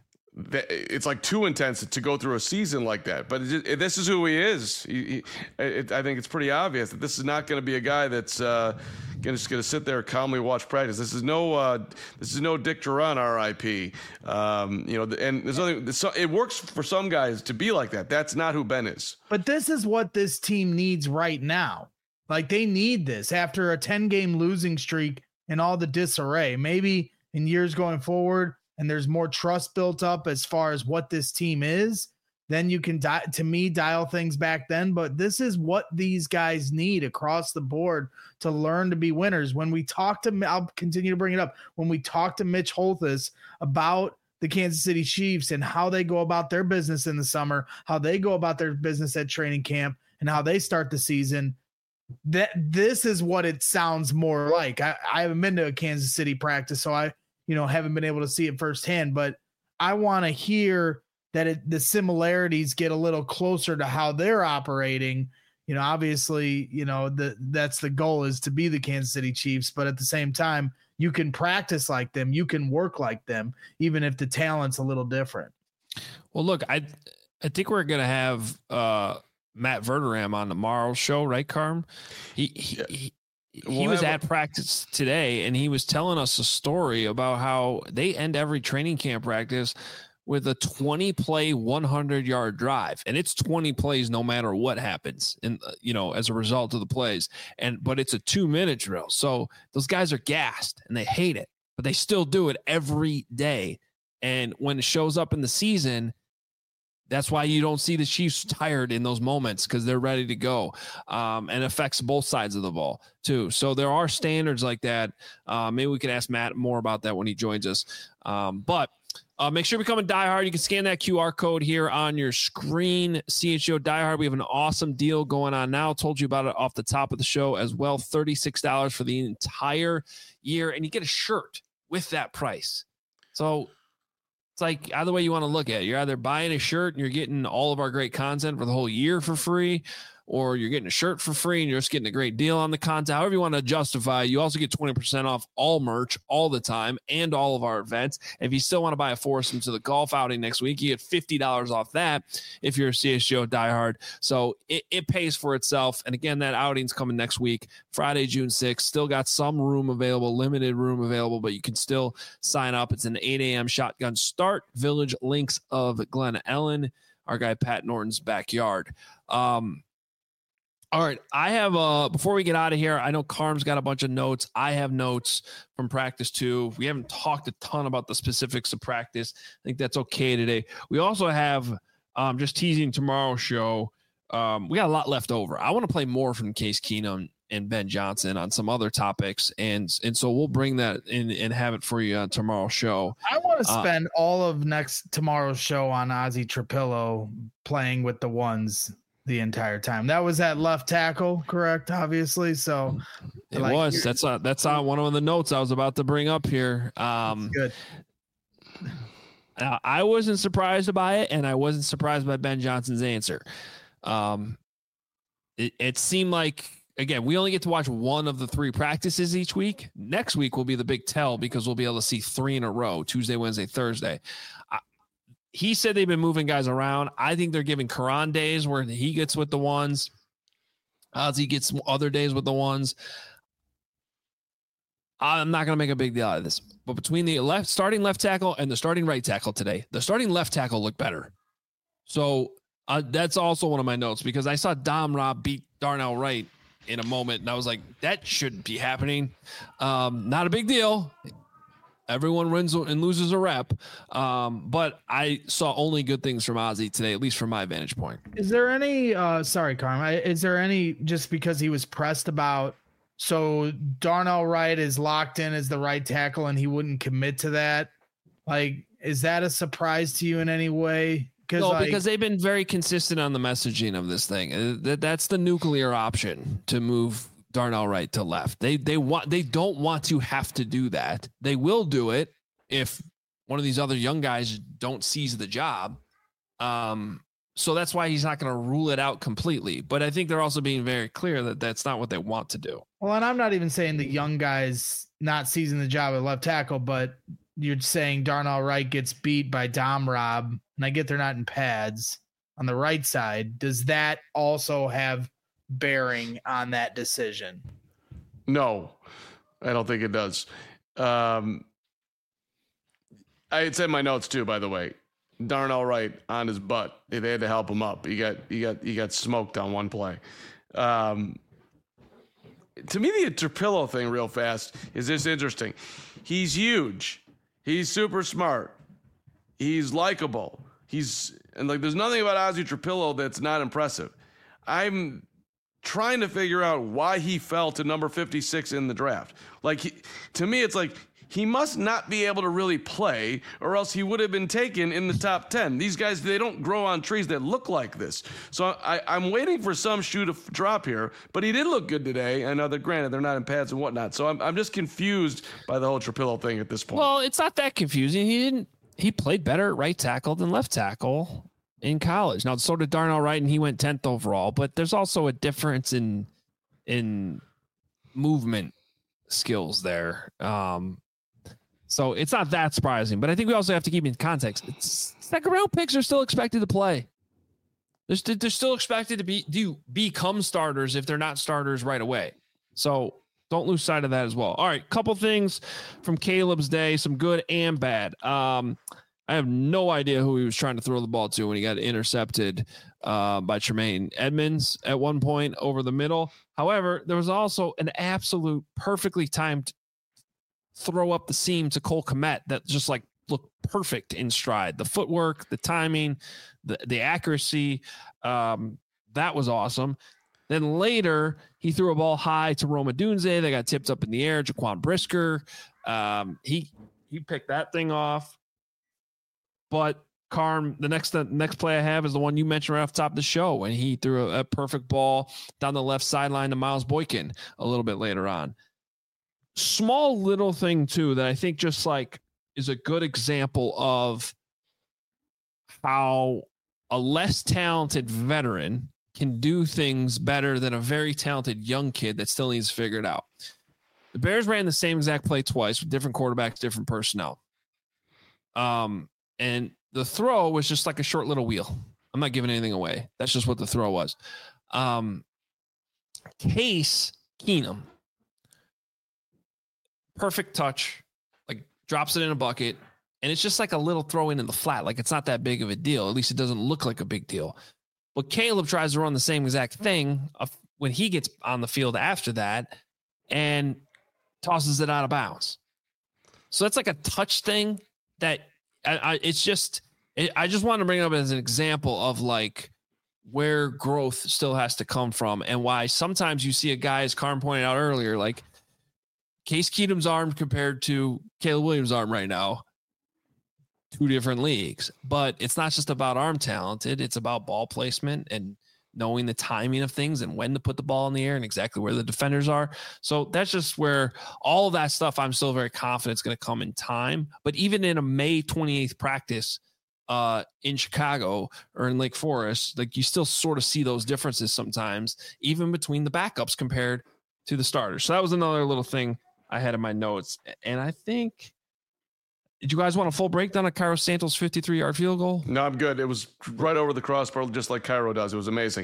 it's like too intense to go through a season like that. But it, it, this is who he is. He, he, it, I think it's pretty obvious that this is not going to be a guy that's uh, gonna, just going to sit there and calmly watch practice. This is no, uh, this is no Dick Duran, R I P. Um, you know, and there's nothing. It works for some guys to be like that. That's not who Ben is. But this is what this team needs right now. Like they need this after a ten game losing streak and all the disarray. Maybe in years going forward, and there's more trust built up as far as what this team is, then you can, di- to me, dial things back then. But this is what these guys need across the board to learn to be winners. When we talk to, I'll continue to bring it up, when we talk to Mitch Holthus about the Kansas City Chiefs and how they go about their business in the summer, how they go about their business at training camp, and how they start the season, that this is what it sounds more like. I, I haven't been to a Kansas City practice, so I, you know, haven't been able to see it firsthand, but I want to hear that it, the similarities get a little closer to how they're operating. You know, obviously, you know, the, that's the goal, is to be the Kansas City Chiefs, but at the same time, you can practice like them, you can work like them, even if the talent's a little different. Well, look, I, I think we're going to have uh, Matt Verderam on tomorrow's show, right, Carm? He, he, yeah. he He was at practice today, and he was telling us a story about how they end every training camp practice with a twenty play, one hundred yard drive. And it's twenty plays no matter what happens, and you know, as a result of the plays. And but it's a two minute drill. So those guys are gassed and they hate it, but they still do it every day. And when it shows up in the season, that's why you don't see the Chiefs tired in those moments, because they're ready to go, um, and affects both sides of the ball too. So there are standards like that. Uh, maybe we can ask Matt more about that when he joins us. Um, but uh, make sure you become a diehard. You can scan that Q R code here on your screen. C H G O Diehard. We have an awesome deal going on now. Told you about it off the top of the show as well. thirty-six dollars for the entire year, and you get a shirt with that price. So it's like either way you want to look at it. You're either buying a shirt and you're getting all of our great content for the whole year for free, or you're getting a shirt for free and you're just getting a great deal on the content. However you want to justify, you also get twenty percent off all merch all the time and all of our events. If you still want to buy a foursome to the golf outing next week, you get fifty dollars off that if you're a C H G O diehard. So it, it pays for itself. And again, that outing's coming next week, Friday, June sixth. Still got some room available, limited room available, but you can still sign up. It's an eight a.m. shotgun start. Village Links of Glen Ellen, our guy Pat Norton's backyard. Um, All right. I have, uh, before we get out of here, I know Carm's got a bunch of notes. I have notes from practice too. We haven't talked a ton about the specifics of practice. I think that's okay today. We also have, um, just teasing tomorrow's show. Um, we got a lot left over. I want to play more from Case Keenum and Ben Johnson on some other topics. And, and so we'll bring that in and have it for you on tomorrow's show. I want to spend uh, all of next tomorrow's show on Ozzy Trapillo playing with the ones the entire time. That was at left tackle, correct? Obviously. So it like, was, that's, uh, that's on one of the notes I was about to bring up here. Um, good. Uh, I wasn't surprised by it. And I wasn't surprised by Ben Johnson's answer. Um, it, it seemed like, again, we only get to watch one of the three practices each week. Next week will be the big tell because we'll be able to see three in a row, Tuesday, Wednesday, Thursday. I, he said they've been moving guys around. I think they're giving Karan days where he gets with the ones. Ozzy gets other days with the ones. I'm not going to make a big deal out of this. But between the left starting left tackle and the starting right tackle today, the starting left tackle looked better. So uh, that's also one of my notes because I saw Dom Rob beat Darnell Wright in a moment, and I was like, that shouldn't be happening. Um, not a big deal. Everyone wins and loses a rep. Um, but I saw only good things from Ozzy today, at least from my vantage point. Is there any, uh, sorry, Carm, is there any, just because he was pressed about, so Darnell Wright is locked in as the right tackle and he wouldn't commit to that? Like, is that a surprise to you in any way? No, like, because they've been very consistent on the messaging of this thing. That's the nuclear option to move Darnell Wright to left. They they want they don't want to have to do that. They will do it if one of these other young guys don't seize the job. Um, so that's why he's not going to rule it out completely. But I think they're also being very clear that that's not what they want to do. Well, and I'm not even saying the young guys not seizing the job at left tackle, but you're saying Darnell Wright gets beat by Dom Rob, and I get they're not in pads on the right side. Does that also have bearing on that decision? No, I don't think it does. Um, I had said in my notes too, by the way, Darnell Wright on his butt. They had to help him up. He got he got he got smoked on one play. Um, to me, the Trapillo thing, real fast, is this interesting. He's huge. He's super smart. He's likable. He's and like there's nothing about Ozzy Trapillo that's not impressive. I'm trying to figure out why he fell to number fifty-six in the draft. Like he, to me, it's like he must not be able to really play, or else he would have been taken in the top ten. These guys, they don't grow on trees that look like this. So I, I'm waiting for some shoe to f- drop here, but he did look good today. I know that granted they're not in pads and whatnot. So I'm I'm just confused by the whole Trapillo thing at this point. Well, it's not that confusing. He didn't. He played better at right tackle than left tackle in college. Now, so did Darnell Wright, and he went tenth overall. But there's also a difference in in movement skills there. Um, so it's not that surprising. But I think we also have to keep in context. It's second round picks are still expected to play. They're, st- they're still expected to be do become starters if they're not starters right away. So don't lose sight of that as well. All right, couple things from Caleb's day, some good and bad. Um, I have no idea who he was trying to throw the ball to when he got intercepted uh, by Tremaine Edmonds at one point over the middle. However, there was also an absolute perfectly timed throw up the seam to Cole Kmet that just like looked perfect in stride. The footwork, the timing, the, the accuracy, um, that was awesome. Then later, he threw a ball high to Roma Dunze. They got tipped up in the air. Jaquan Brisker, um, he he picked that thing off. But Carm, the next the next play I have is the one you mentioned right off the top of the show, and he threw a, a perfect ball down the left sideline to Miles Boykin a little bit later on. Small little thing too that I think just like is a good example of how a less talented veteran can do things better than a very talented young kid that still needs to figure it out. The Bears ran the same exact play twice with different quarterbacks, different personnel. Um, and the throw was just like a short little wheel. I'm not giving anything away. That's just what the throw was. Um, Case Keenum, perfect touch, like drops it in a bucket. And it's just like a little throw in in the flat. Like it's not that big of a deal. At least it doesn't look like a big deal. But Caleb tries to run the same exact thing when he gets on the field after that and tosses it out of bounds. So that's like a touch thing that I, I it's just, it, I just wanted to bring it up as an example of like where growth still has to come from and why sometimes you see a guy, as Carm pointed out earlier, like Case Keenum's arm compared to Caleb Williams' arm right now, two different leagues, but it's not just about arm talented. It's about ball placement and knowing the timing of things and when to put the ball in the air and exactly where the defenders are. So that's just where all of that stuff I'm still very confident is going to come in time. But even in a May twenty-eighth practice uh, in Chicago or in Lake Forest, like you still sort of see those differences sometimes, even between the backups compared to the starters. So that was another little thing I had in my notes. And I think, did you guys want a full breakdown of Cairo Santos' fifty-three-yard field goal? No, I'm good. It was right over the crossbar, just like Cairo does. It was amazing.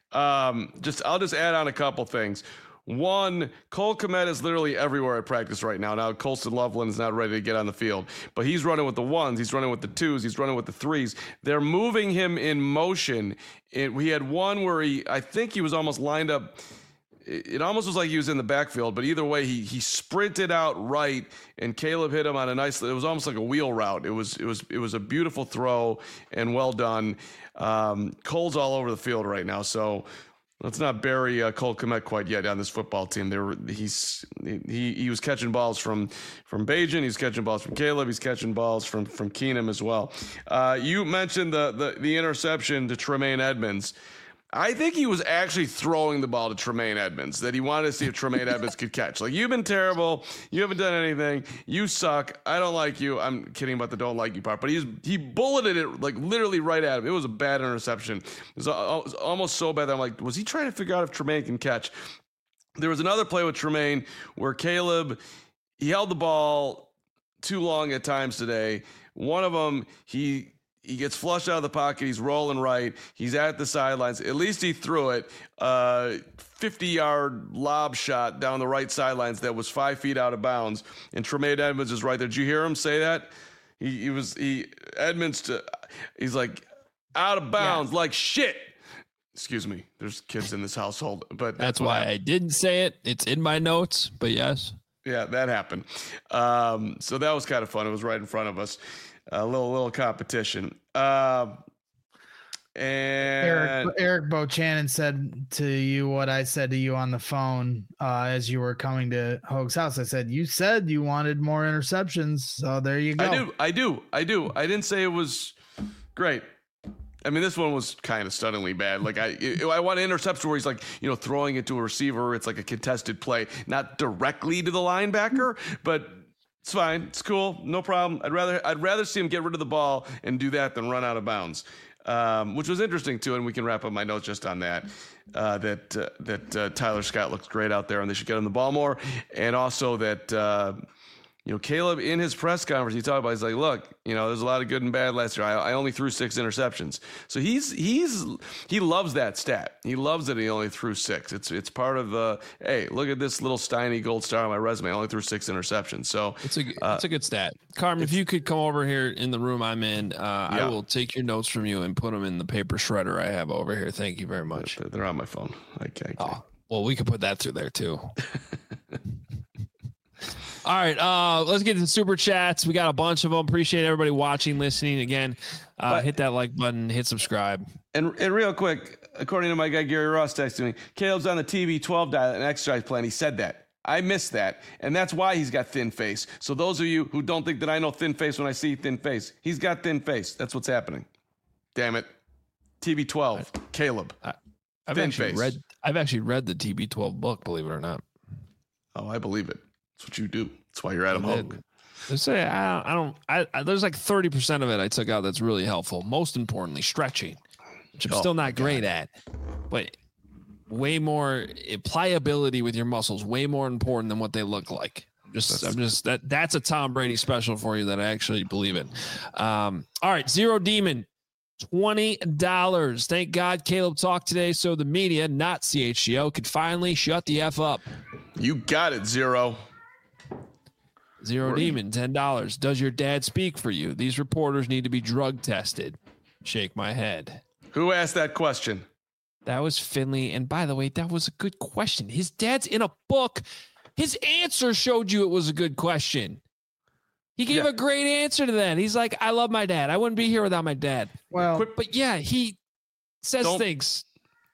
Um, just I'll just add on a couple things. One, Cole Kmet is literally everywhere at practice right now. Now, Colston Loveland is not ready to get on the field, but he's running with the ones, he's running with the twos, he's running with the threes. They're moving him in motion. It, we had one where he, I think he was almost lined up. It almost was like he was in the backfield, but either way, he he sprinted out right, and Caleb hit him on a nice. It was almost like a wheel route. It was it was it was a beautiful throw and well done. Um, Cole's all over the field right now, so let's not bury uh, Cole Kmet quite yet on this football team. There, he's he he was catching balls from from Bajan. He's catching balls from Caleb. He's catching balls from from Keenum as well. Uh, you mentioned the the the interception to Tremaine Edmonds. I think he was actually throwing the ball to Tremaine Edmonds, that he wanted to see if Tremaine Edmonds could catch. Like, you've been terrible. You haven't done anything. You suck. I don't like you. I'm kidding about the don't like you part, but he's, he bulleted it, like, literally right at him. It was a bad interception. It was, it was almost so bad that I'm like, was he trying to figure out if Tremaine can catch? There was another play with Tremaine where Caleb, he held the ball too long at times today. One of them, he... He gets flushed out of the pocket. He's rolling right. He's at the sidelines. At least he threw it. Uh, fifty-yard lob shot down the right sidelines that was five feet out of bounds. And Tremaine Edmonds is right there. Did you hear him say that? He, he was he Edmonds. To, he's like out of bounds, yeah. Like shit. Excuse me. There's kids in this household, but that's, that's why I, I didn't say it. It's in my notes, but yes. Yeah, that happened. Um, so that was kind of fun. It was right in front of us. A little little competition. Uh, and Eric, Eric Bochanan said to you what I said to you on the phone uh, as you were coming to Hoag's house. I said, you said you wanted more interceptions, so there you go. I do, I do, I do. I didn't say it was great. I mean, this one was kind of stunningly bad. Like, I I want an interception where he's like, you know, throwing it to a receiver. It's like a contested play, not directly to the linebacker, but it's fine. It's cool. No problem. I'd rather I'd rather see him get rid of the ball and do that than run out of bounds, um, which was interesting too. And we can wrap up my notes just on that. Uh, that uh, that uh, Tyler Scott looks great out there, and they should get him the ball more. And also that uh, you know, Caleb in his press conference, he talked about, he's like, look, you know, there's a lot of good and bad last year. I, I only threw six interceptions. So he's, he's, he loves that stat. He loves that he only threw six. It's, it's part of the, hey, look at this little Steiny gold star on my resume. I only threw six interceptions. So it's a, uh, it's a good stat. Carm, if you could come over here in the room I'm in, uh, yeah. I will take your notes from you and put them in the paper shredder I have over here. Thank you very much. They're on my phone. Okay. Oh, well, we could put that through there too. All right, uh, let's get to the super chats. We got a bunch of them. Appreciate everybody watching, listening. Again, uh, but, hit that like button, hit subscribe. And and real quick, according to my guy Gary Ross texting me, Caleb's on the T B twelve diet and exercise plan. He said that. I missed that, and that's why he's got thin face. So those of you who don't think that I know thin face when I see thin face, he's got thin face. That's what's happening. Damn it. T B twelve, I, Caleb. I, I've thin actually face. read. I've actually read the T B twelve book, believe it or not. Oh, I believe it. That's what you do. That's why you're Adam Hogue. Say I, I don't. I, I there's like thirty percent of it I took out that's really helpful. Most importantly, stretching, which I'm oh, still not great God. at, but way more pliability with your muscles. Way more important than what they look like. Just that's, I'm just that that's a Tom Brady special for you that I actually believe in. Um, all right, Zero Demon. twenty dollars. Thank God Caleb talked today so the media, not C H G O, could finally shut the F up. You got it, Zero. Zero Where Demon, ten dollars. Does your dad speak for you? These reporters need to be drug tested. Shake my head. Who asked that question? That was Finley. And by the way, that was a good question. His dad's in a book. His answer showed you it was a good question. He gave Yeah. a great answer to that. He's like, I love my dad. I wouldn't be here without my dad. Well, But yeah, he says Don't- things.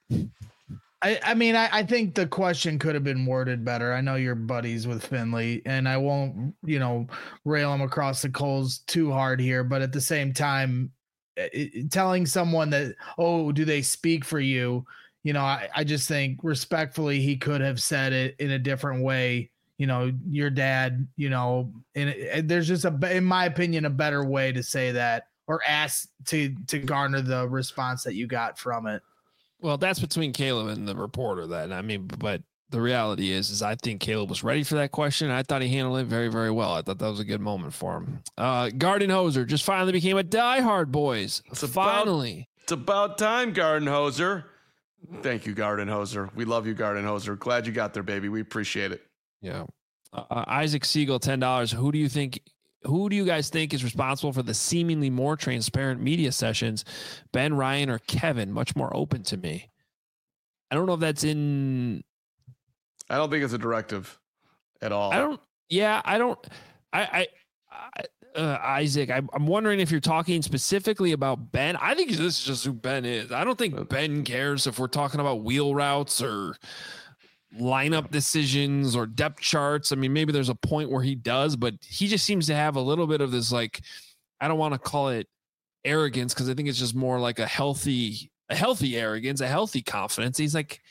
I, I mean, I, I think the question could have been worded better. I know you're buddies with Finley, and I won't, you know, rail him across the coals too hard here. But at the same time, it, it- telling someone that, oh, do they speak for you? You know, I, I just think respectfully, he could have said it in a different way. You know, your dad, you know, and, it, and there's just a, in my opinion, a better way to say that or ask to to garner the response that you got from it. Well, that's between Caleb and the reporter. That I mean, but the reality is, is I think Caleb was ready for that question. I thought he handled it very, very well. I thought that was a good moment for him. Uh, Garden Hoser just finally became a diehard boys. It's about- finally. It's about time, Garden Hoser. Thank you, Garden Hoser. We love you, Garden Hoser. Glad you got there, baby. We appreciate it. Yeah. Uh, uh, Isaac Siegel, ten dollars. Who do you think? Who do you guys think is responsible for the seemingly more transparent media sessions? Ben, Ryan, or Kevin? Much more open to me. I don't know if that's in. I don't think it's a directive at all. I don't. Yeah, I don't. I. I, I uh, Isaac, I'm, I'm wondering if you're talking specifically about Ben. I think this is just who Ben is. I don't think Ben cares if we're talking about wheel routes or lineup decisions or depth charts. I mean, maybe there's a point where he does, but he just seems to have a little bit of this, like, I don't want to call it arrogance, because I think it's just more like a healthy, a healthy arrogance, a healthy confidence. He's like,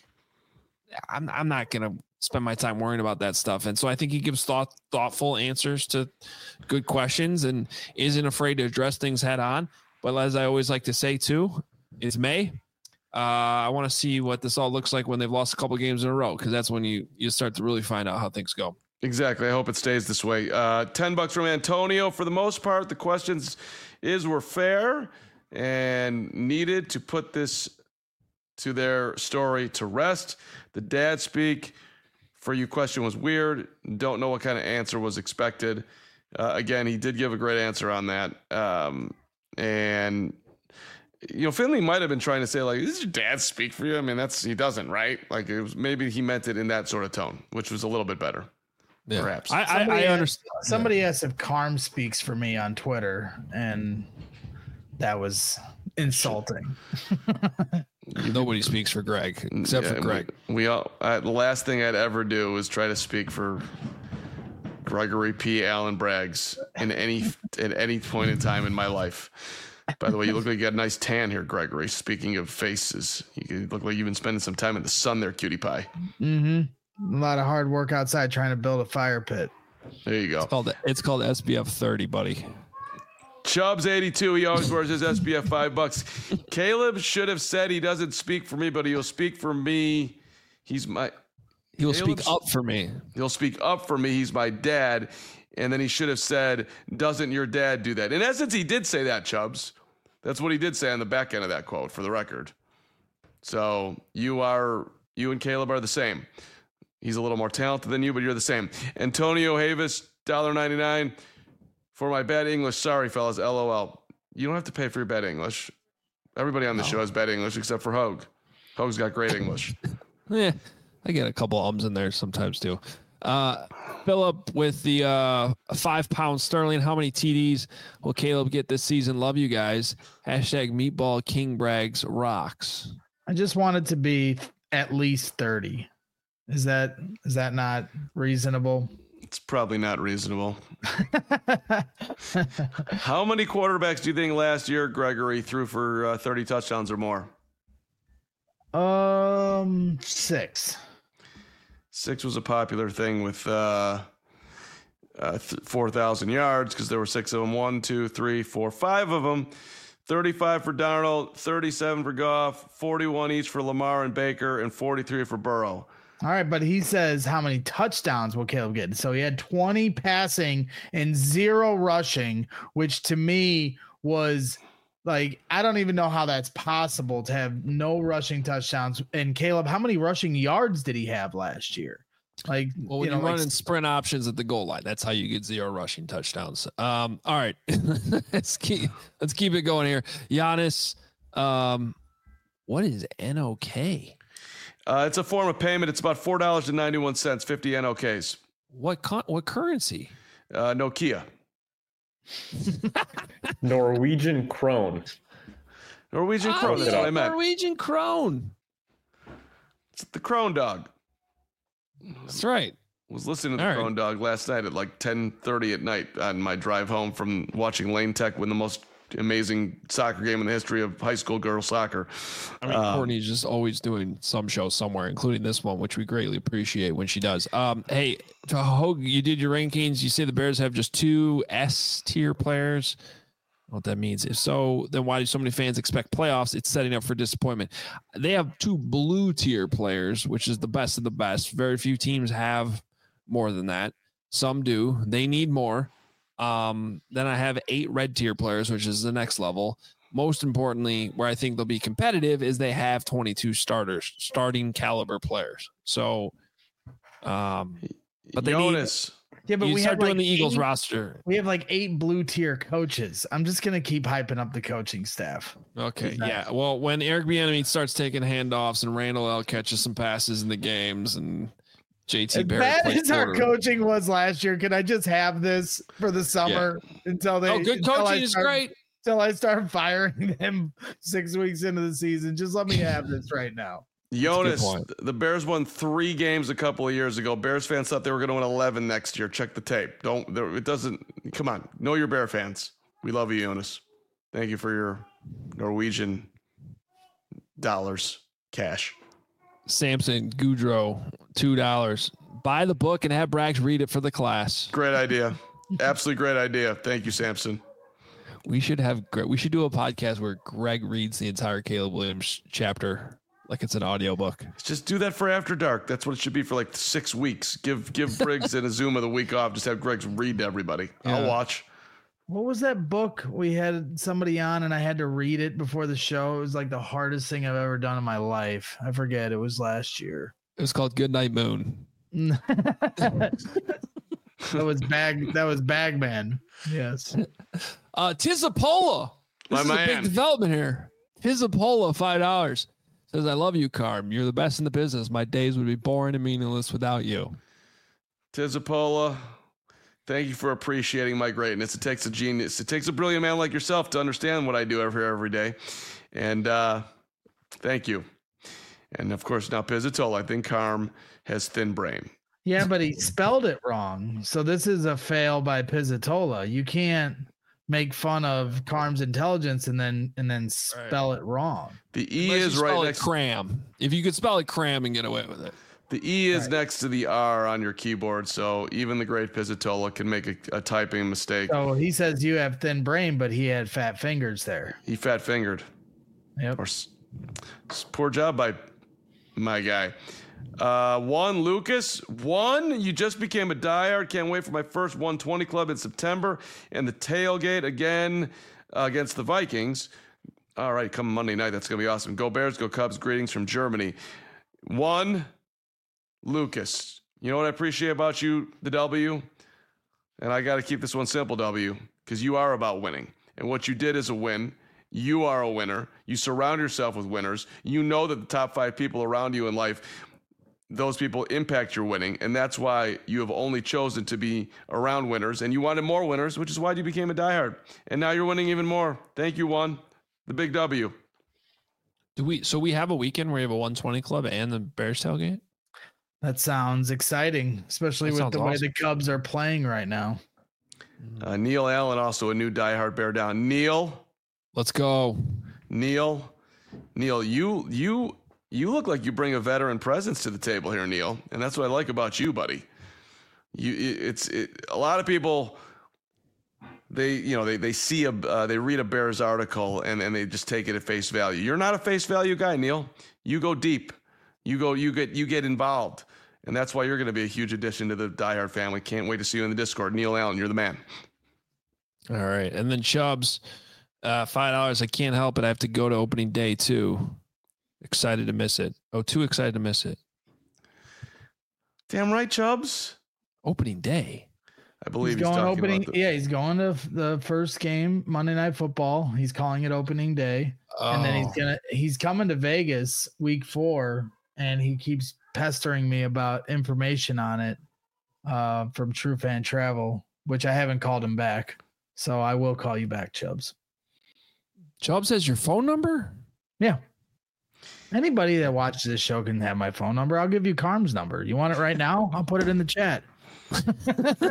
I'm, I'm not going to spend my time worrying about that stuff. And so I think he gives thought, thoughtful answers to good questions and isn't afraid to address things head on. But as I always like to say too, it's May. Uh, I want to see what this all looks like when they've lost a couple games in a row, because that's when you you start to really find out how things go. Exactly. I hope it stays this way. Uh, ten bucks from Antonio. For the most part, the questions is were fair and needed to put this to their story to rest. The dad speak for you question was weird. Don't know what kind of answer was expected. Uh, again, he did give a great answer on that. Um, and you know, Finley might have been trying to say, like, "Does your dad speak for you?" I mean, that's he doesn't, right? Like, it was maybe he meant it in that sort of tone, which was a little bit better, Yeah. perhaps. I, I, Somebody I asked- understand. Somebody asked if Carm speaks for me on Twitter, and that was insulting. Nobody speaks for Greg except Yeah, for Greg. We, we all. I, the last thing I'd ever do is try to speak for Gregory P. Allen Braggs in any at any point in time in my life. By the way, you look like you got a nice tan here, Gregory. Speaking of faces, you look like you've been spending some time in the sun there, cutie pie. Mm-hmm. A lot of hard work outside trying to build a fire pit. There you go. It's called it's called S B F thirty, buddy. Chubbs eighty-two. He always wears his S B F five bucks. Caleb should have said he doesn't speak for me, but he'll speak for me. He's my. He will Caleb's- speak up for me. He'll speak up for me. He's my dad. And then he should have said, "Doesn't your dad do that?" In essence, he did say that, Chubbs. That's what he did say on the back end of that quote, for the record. So you are, you and Caleb are the same. He's a little more talented than you, but you're the same. Antonio Havis, one dollar and ninety-nine cents. For my bad English, sorry, fellas, LOL. You don't have to pay for your bad English. Everybody on the show has bad English except for Hogue. Hogue's got great English. Yeah, I get a couple ums in there sometimes too. Uh, Philip with the uh, five pound sterling. How many T Ds will Caleb get this season? Love you guys. Hashtag Meatball King Braggs rocks. I just want it to be at least thirty. Is that is that not reasonable? It's probably not reasonable. How many quarterbacks do you think last year Gregory threw for uh, thirty touchdowns or more? Um, six. Six was a popular thing with uh, uh, th- four thousand yards because there were six of them. One, two, three, four, five of them. thirty-five for Darnold, thirty-seven for Goff, forty-one each for Lamar and Baker, and forty-three for Burrow. All right, but he says how many touchdowns will Caleb get? So he had twenty passing and zero rushing, which to me was like, I don't even know how that's possible to have no rushing touchdowns. And Caleb, how many rushing yards did he have last year? Like, Well, when you you, know, run like, in sprint options at the goal line, that's how you get zero rushing touchdowns. Um, all right, let's keep let's keep it going here. Giannis, um, What is N O K? Uh, it's a form of payment. It's about four dollars and ninety-one cents, fifty N O Ks. What con- what currency? Uh, Nokia. Norwegian krone. Norwegian Oh, krone. That's yeah, what I meant. Norwegian krone. It's the Krone Dog. That's right. Was listening to the All right. Krone Dog last night at like ten thirty at night on my drive home from watching Lane Tech win the most amazing soccer game in the history of high school girls soccer. I mean, Um, Courtney's just always doing some show somewhere, including this one, which we greatly appreciate when she does. Um, hey, Hogue, you did your rankings. You say the Bears have just two S tier players. I don't know what that means. If so, then why do so many fans expect playoffs? It's setting up for disappointment. They have two blue tier players, which is the best of the best. Very few teams have more than that. Some do. They need more. Um, then I have eight red tier players, which is the next level. Most importantly, where I think they'll be competitive is they have twenty-two starters, starting caliber players. So, um, but they Jonas. Yeah, but need, you we start have doing like the Eagles eight, roster. We have like eight blue tier coaches. I'm just gonna keep hyping up the coaching staff. Okay, Exactly. yeah. Well, when Eric Bieniemy starts taking handoffs and Randall L catches some passes in the games and J T As Barrett bad plays as our quarter- coaching was last year, can I just have this for the summer until they? Oh, good until I coaching is start- great. Until I start firing them six weeks into the season, just let me have this right now. Jonas, point. the Bears won three games a couple of years ago. Bears fans thought they were going to win eleven next year. Check the tape. Don't, there- it doesn't, come on. Know your Bear fans. We love you, Jonas. Thank you for your Norwegian dollars cash. Samson Goudreau, two dollars. Buy the book and have Brax read it for the class. Great idea. Absolutely great idea. Thank you, Samson. We should have Gre- we should do a podcast where Greg reads the entire Caleb Williams chapter like it's an audiobook. Just do that for After Dark. That's what it should be for like six weeks. Give give Briggs and Azuma the week off. Just have Greg read to everybody. I'll Yeah. watch. What was that book we had somebody on and I had to read it before the show? It was like the hardest thing I've ever done in my life. I forget. It was last year. It was called Goodnight Moon. that was bag. That was Bagman. Yes. Uh, Tizapola. This My is a man. big development here. Tizapola, five dollars. Says, I love you, Carm. You're the best in the business. My days would be boring and meaningless without you. Tizapola, thank you for appreciating my greatness. It takes a genius. It takes a brilliant man like yourself to understand what I do every every day. And uh, thank you. And of course, now Pizzatola. I think Carm has thin brain. Yeah, but he spelled it wrong. So this is a fail by Pizzatola. You can't make fun of Carm's intelligence and then and then spell it wrong. The E Unless is you right spell it next. cram. If you could spell it cram and get away with it. The E is Right. next to the R on your keyboard, so even the great Pizzatola can make a, a typing mistake. So he says you have thin brain, but he had fat fingers there. He fat fingered. Yep. Or s- s- poor job by my guy. Uh, one Lucas, one. You just became a diehard. Can't wait for my first one twenty club in September and the tailgate again uh, against the Vikings. All right, come Monday night. That's gonna be awesome. Go Bears, go Cubs. Greetings from Germany. One Lucas. You know what I appreciate about you, the W, and I got to keep this one simple, W, because you are about winning, and what you did is a win. You are a winner. You surround yourself with winners. You know that the top five people around you in life, those people impact your winning. And that's why you have only chosen to be around winners. And you wanted more winners, which is why you became a diehard. And now you're winning even more. Thank you, one. The big W. Do we? So we have a weekend where we have a one twenty club and the Bears tailgate. That sounds exciting, especially That with sounds the way awesome. the Cubs are playing right now. Uh, Neil Allen, also a new diehard Bear down. Neil, Let's go. Neil, Neil, you, you, you look like you bring a veteran presence to the table here, Neil. And that's what I like about you, buddy. You, it- it's it, a lot of people. They, you know, they they see a, uh, they read a Bears article and and they just take it at face value. You're not a face value guy, Neil. You go deep. You go, you get, you get involved, and that's why you're going to be a huge addition to the diehard family. Can't wait to see you in the Discord, Neil Allen. You're the man. All right. And then Chubbs, uh, five dollars. I can't help it. I have to go to opening day too. Excited to miss it. Oh, too excited to miss it. Damn right, Chubbs. Opening day. I believe he's he's, going talking opening. about the, Yeah, he's going to the first game, Monday Night Football. He's calling it opening day, Oh. and then he's gonna he's coming to Vegas week four, and he keeps pestering me about information on it uh, from True Fan Travel, which I haven't called him back. So I will call you back, Chubbs. Chubbs has your phone number? Yeah. Anybody that watches this show can have my phone number. I'll give you Carm's number. You want it right now? I'll put it in the chat. I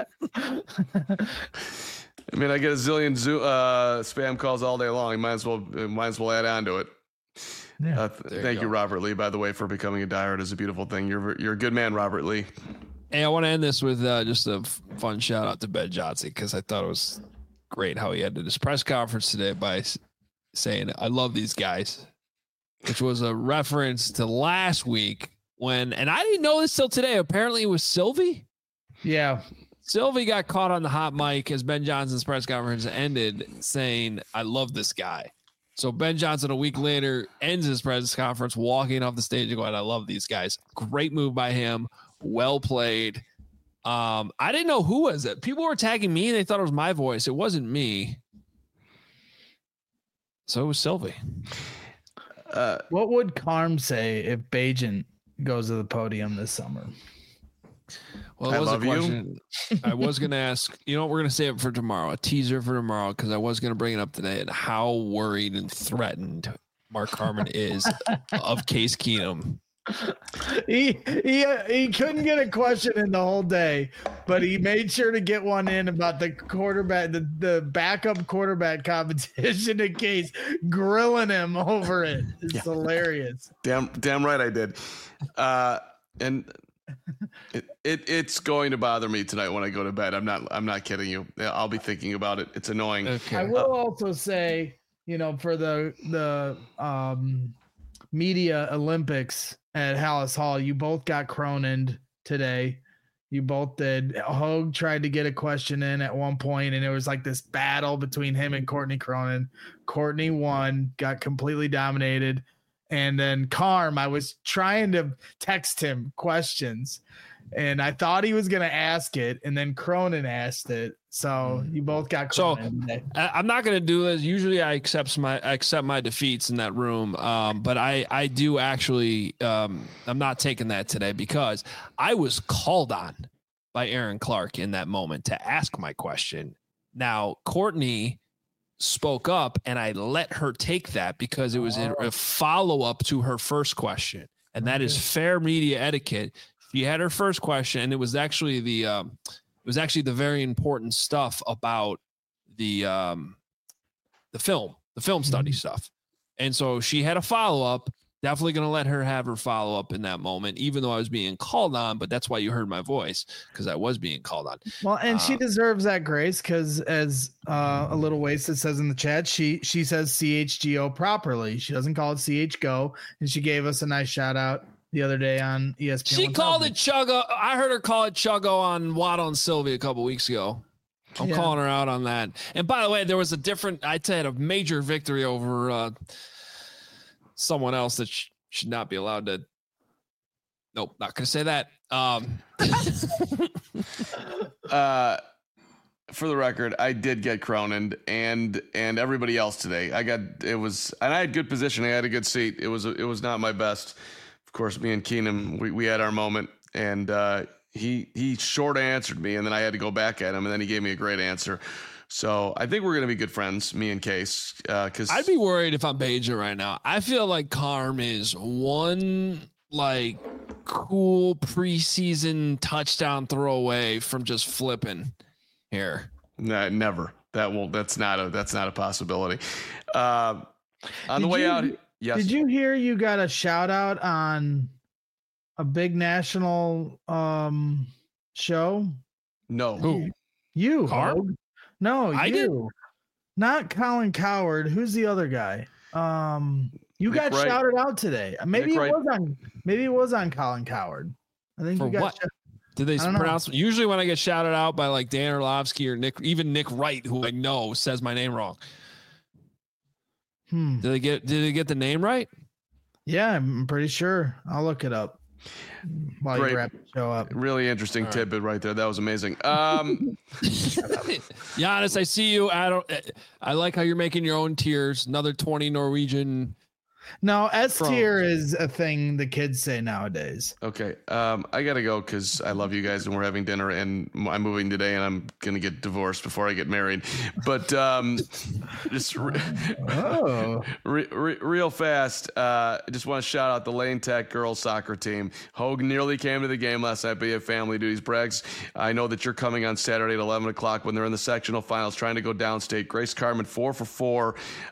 mean, I get a zillion zoo, uh, spam calls all day long. You might as well might as well add on to it. Yeah. Uh, th- thank you, you, Robert Lee, by the way, for becoming a diehard. Is a beautiful thing. You're you're a good man, Robert Lee. Hey, I want to end this with uh, just a f- fun shout out to Ben Johnson because I thought it was great how he ended his press conference today by s- saying, "I love these guys," which was a reference to last week when, and I didn't know this till today. Apparently, it was Sylvie. Yeah. Sylvie got caught on the hot mic as Ben Johnson's press conference ended saying, "I love this guy." So Ben Johnson a week later ends his press conference walking off the stage and going, "I love these guys." Great move by him. Well played. Um, I didn't know who was it. People were tagging me and they thought it was my voice. It wasn't me. So it was Sylvie. Uh, what would Carm say if Bajan goes to the podium this summer? Well, it was a question I was going to ask. You know what? We're going to save it for tomorrow. A teaser for tomorrow because I was going to bring it up today and how worried and threatened Mark Carman is of Case Keenum. He he he couldn't get a question in the whole day, but he made sure to get one in about the quarterback, the, the backup quarterback competition in Case, grilling him over it. It's yeah. hilarious. Damn, damn right I did. Uh, and it, it it's going to bother me tonight when I go to bed. I'm not I'm not kidding you. I'll be thinking about it. It's annoying. Okay. I will also say, you know, for the the um, media Olympics at Hallis Hall, you both got Cronin today. You both did. Hogue tried to get a question in at one point, and it was like this battle between him and Courtney Cronin. Courtney won, got completely dominated. And then Carm, I was trying to text him questions, and I thought he was going to ask it, and then Cronin asked it. So you both got Cronin. So I, I'm not going to do this. Usually I accept my I accept my defeats in that room, um, but I I do actually um, I'm not taking that today because I was called on by Aaron Clark in that moment to ask my question. Now Courtney spoke up, and I let her take that because it was a, a follow up to her first question, and that is fair media etiquette. She had her first question, and it was actually the um, it was actually the very important stuff about the um, the film, the film study mm-hmm. stuff. And so she had a follow up. Definitely going to let her have her follow up in that moment, even though I was being called on. But that's why you heard my voice, because I was being called on. Well, and um, she deserves that grace because, as uh, a little wasted says in the chat, she she says C H G O properly. She doesn't call it C H G O, and she gave us a nice shout out the other day on E S P N. She called it Chuggo. I heard her call it Chuggo on Waddle and Sylvie a couple weeks ago. I'm yeah. calling her out on that. And by the way, there was a different, I'd say, a major victory over uh, someone else that sh- should not be allowed to. Nope, not going to say that. Um, uh, for the record, I did get Cronin and and everybody else today. I got it was, and I had good positioning. I had a good seat. It was it was not my best. Of course, me and Keenum, we, we had our moment, and uh, he he short answered me, and then I had to go back at him, and then he gave me a great answer. So I think we're going to be good friends, me and Case. Because uh, I'd be worried if I'm Bajan right now. I feel like Carm is one like cool preseason touchdown throw away from just flipping here. No, never. That will. That's not a. That's not a possibility. Uh, on did the way you, out. Yes. Did you hear you got a shout out on a big national um, show? No. Who? You. Carm? No, I you. did. Not Colin Coward. Who's the other guy? Um, you Nick got Wright. shouted out today. Maybe Nick it Wright. was on. Maybe it was on Colin Coward. I think For you got. what? Shout- Did they I don't pronounce? Usually, when I get shouted out by like Dan Orlovsky or Nick, even Nick Wright, who I know says my name wrong. Hmm. Did they get? Did they get the name right? Yeah, I'm pretty sure. I'll look it up. While Great. you wrap the show up. Really interesting All right. tidbit right there. That was amazing. Um, Giannis, I see you. I don't. I like how you're making your own tiers. Another twenty Norwegian. No, S From- tier is a thing the kids say nowadays. okay. Um, I got to go because I love you guys and we're having dinner and I'm moving today and I'm going to get divorced before I get married. But um, just re- Oh, re- re- real fast, uh, I just want to shout out the Lane Tech girls soccer team. Hogue nearly came to the game last night, but he had family duties. Braggs, I know that you're coming on Saturday at eleven o'clock when they're in the sectional finals trying to go downstate. Grace Carmen, four for four.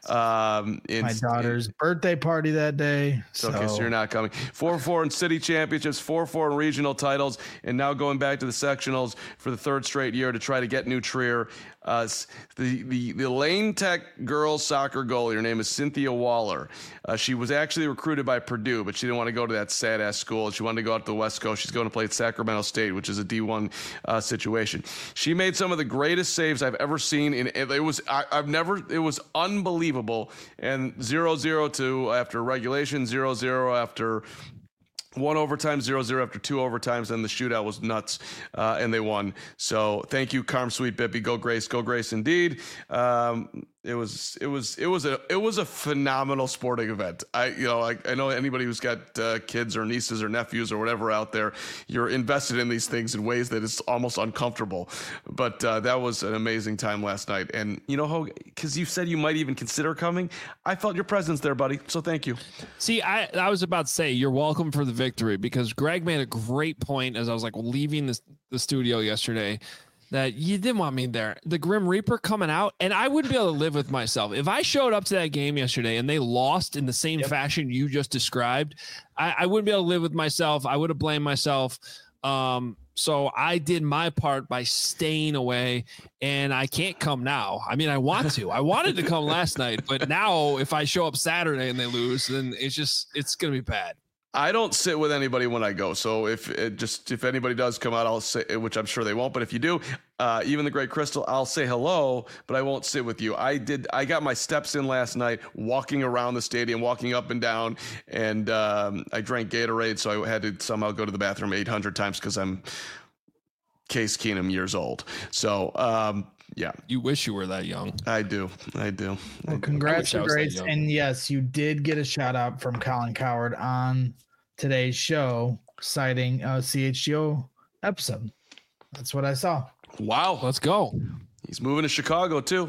Um, in, my daughter's birthday party that day. So, So, okay, so you're not coming. Four for four in city championships, four for four in regional titles, and now going back to the sectionals for the third straight year to try to get New Trier. Uh, the, the, the Lane Tech girls soccer goalie, her name is Cynthia Waller. Uh, she was actually recruited by Purdue, but she didn't want to go to that sad-ass school. She wanted to go out to the West Coast. She's going to play at Sacramento State, which is a D one uh, situation. She made some of the greatest saves I've ever seen. In, it was I, I've never. It was unbelievable. And zero zero to after regulation, zero zero after one overtime, zero zero after two overtimes, and the shootout was nuts, uh, and they won. So thank you, Carm Sweet Bippy. Go Grace, go Grace indeed. Um, it was it was it was a it was a phenomenal sporting event. I you know I, I know anybody who's got uh, kids or nieces or nephews or whatever out there, you're invested in these things in ways that it's almost uncomfortable. But uh, that was an amazing time last night. And you know, because you said you might even consider coming, I felt your presence there, buddy. So thank you. See, I, I was about to say you're welcome for the victory because Greg made a great point as I was like leaving the, the studio yesterday that you didn't want me there. The Grim Reaper coming out, and I wouldn't be able to live with myself. If I showed up to that game yesterday and they lost in the same yep. fashion you just described, I, I wouldn't be able to live with myself. I would have blamed myself. Um, so I did my part by staying away, and I can't come now. I mean, I want to. I wanted to come last night, but now if I show up Saturday and they lose, then it's just it's going to be bad. I don't sit with anybody when I go. So if it just if anybody does come out, I'll say, which I'm sure they won't. But if you do, uh, even the Great Crystal, I'll say hello, but I won't sit with you. I did. I got my steps in last night, walking around the stadium, walking up and down, and um, I drank Gatorade, so I had to somehow go to the bathroom eight hundred times because I'm Case Keenum years old. So. Um, Yeah, you wish you were that young. I do. I do. Well, congrats to Grace. And yes, you did get a shout out from Colin Coward on today's show, citing a C H G O episode. That's what I saw. Wow. Let's go. He's moving to Chicago too.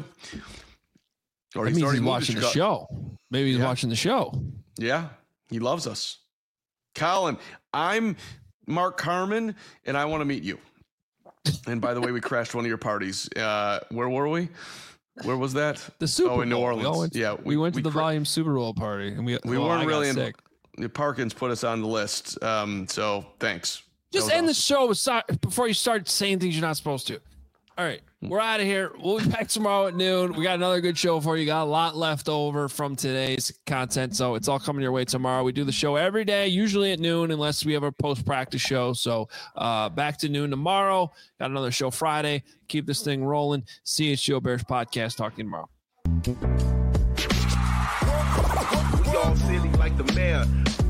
Or he's, he's watching the show. Maybe he's yeah. watching the show. Yeah, he loves us. Colin, I'm Mark Carman, and I want to meet you. And by the way, we crashed one of your parties. Uh, where were we? Where was that? The Super Bowl. Oh, in New Orleans. We went to, yeah, we, we went to we the cra- Volume Super Bowl party, and we we well, weren't I really in. Sick. Parkins put us on the list. Um, so thanks. Just end awesome. the show with, before you start saying things you're not supposed to. All right, we're out of here. We'll be back tomorrow at noon. We got another good show for you. Got a lot left over from today's content, so it's all coming your way tomorrow. We do the show every day, usually at noon, unless we have a post-practice show. So uh, back to noon tomorrow. Got another show Friday. Keep this thing rolling. C H G O Bears Podcast. Talk to you tomorrow. We all silly like the mayor.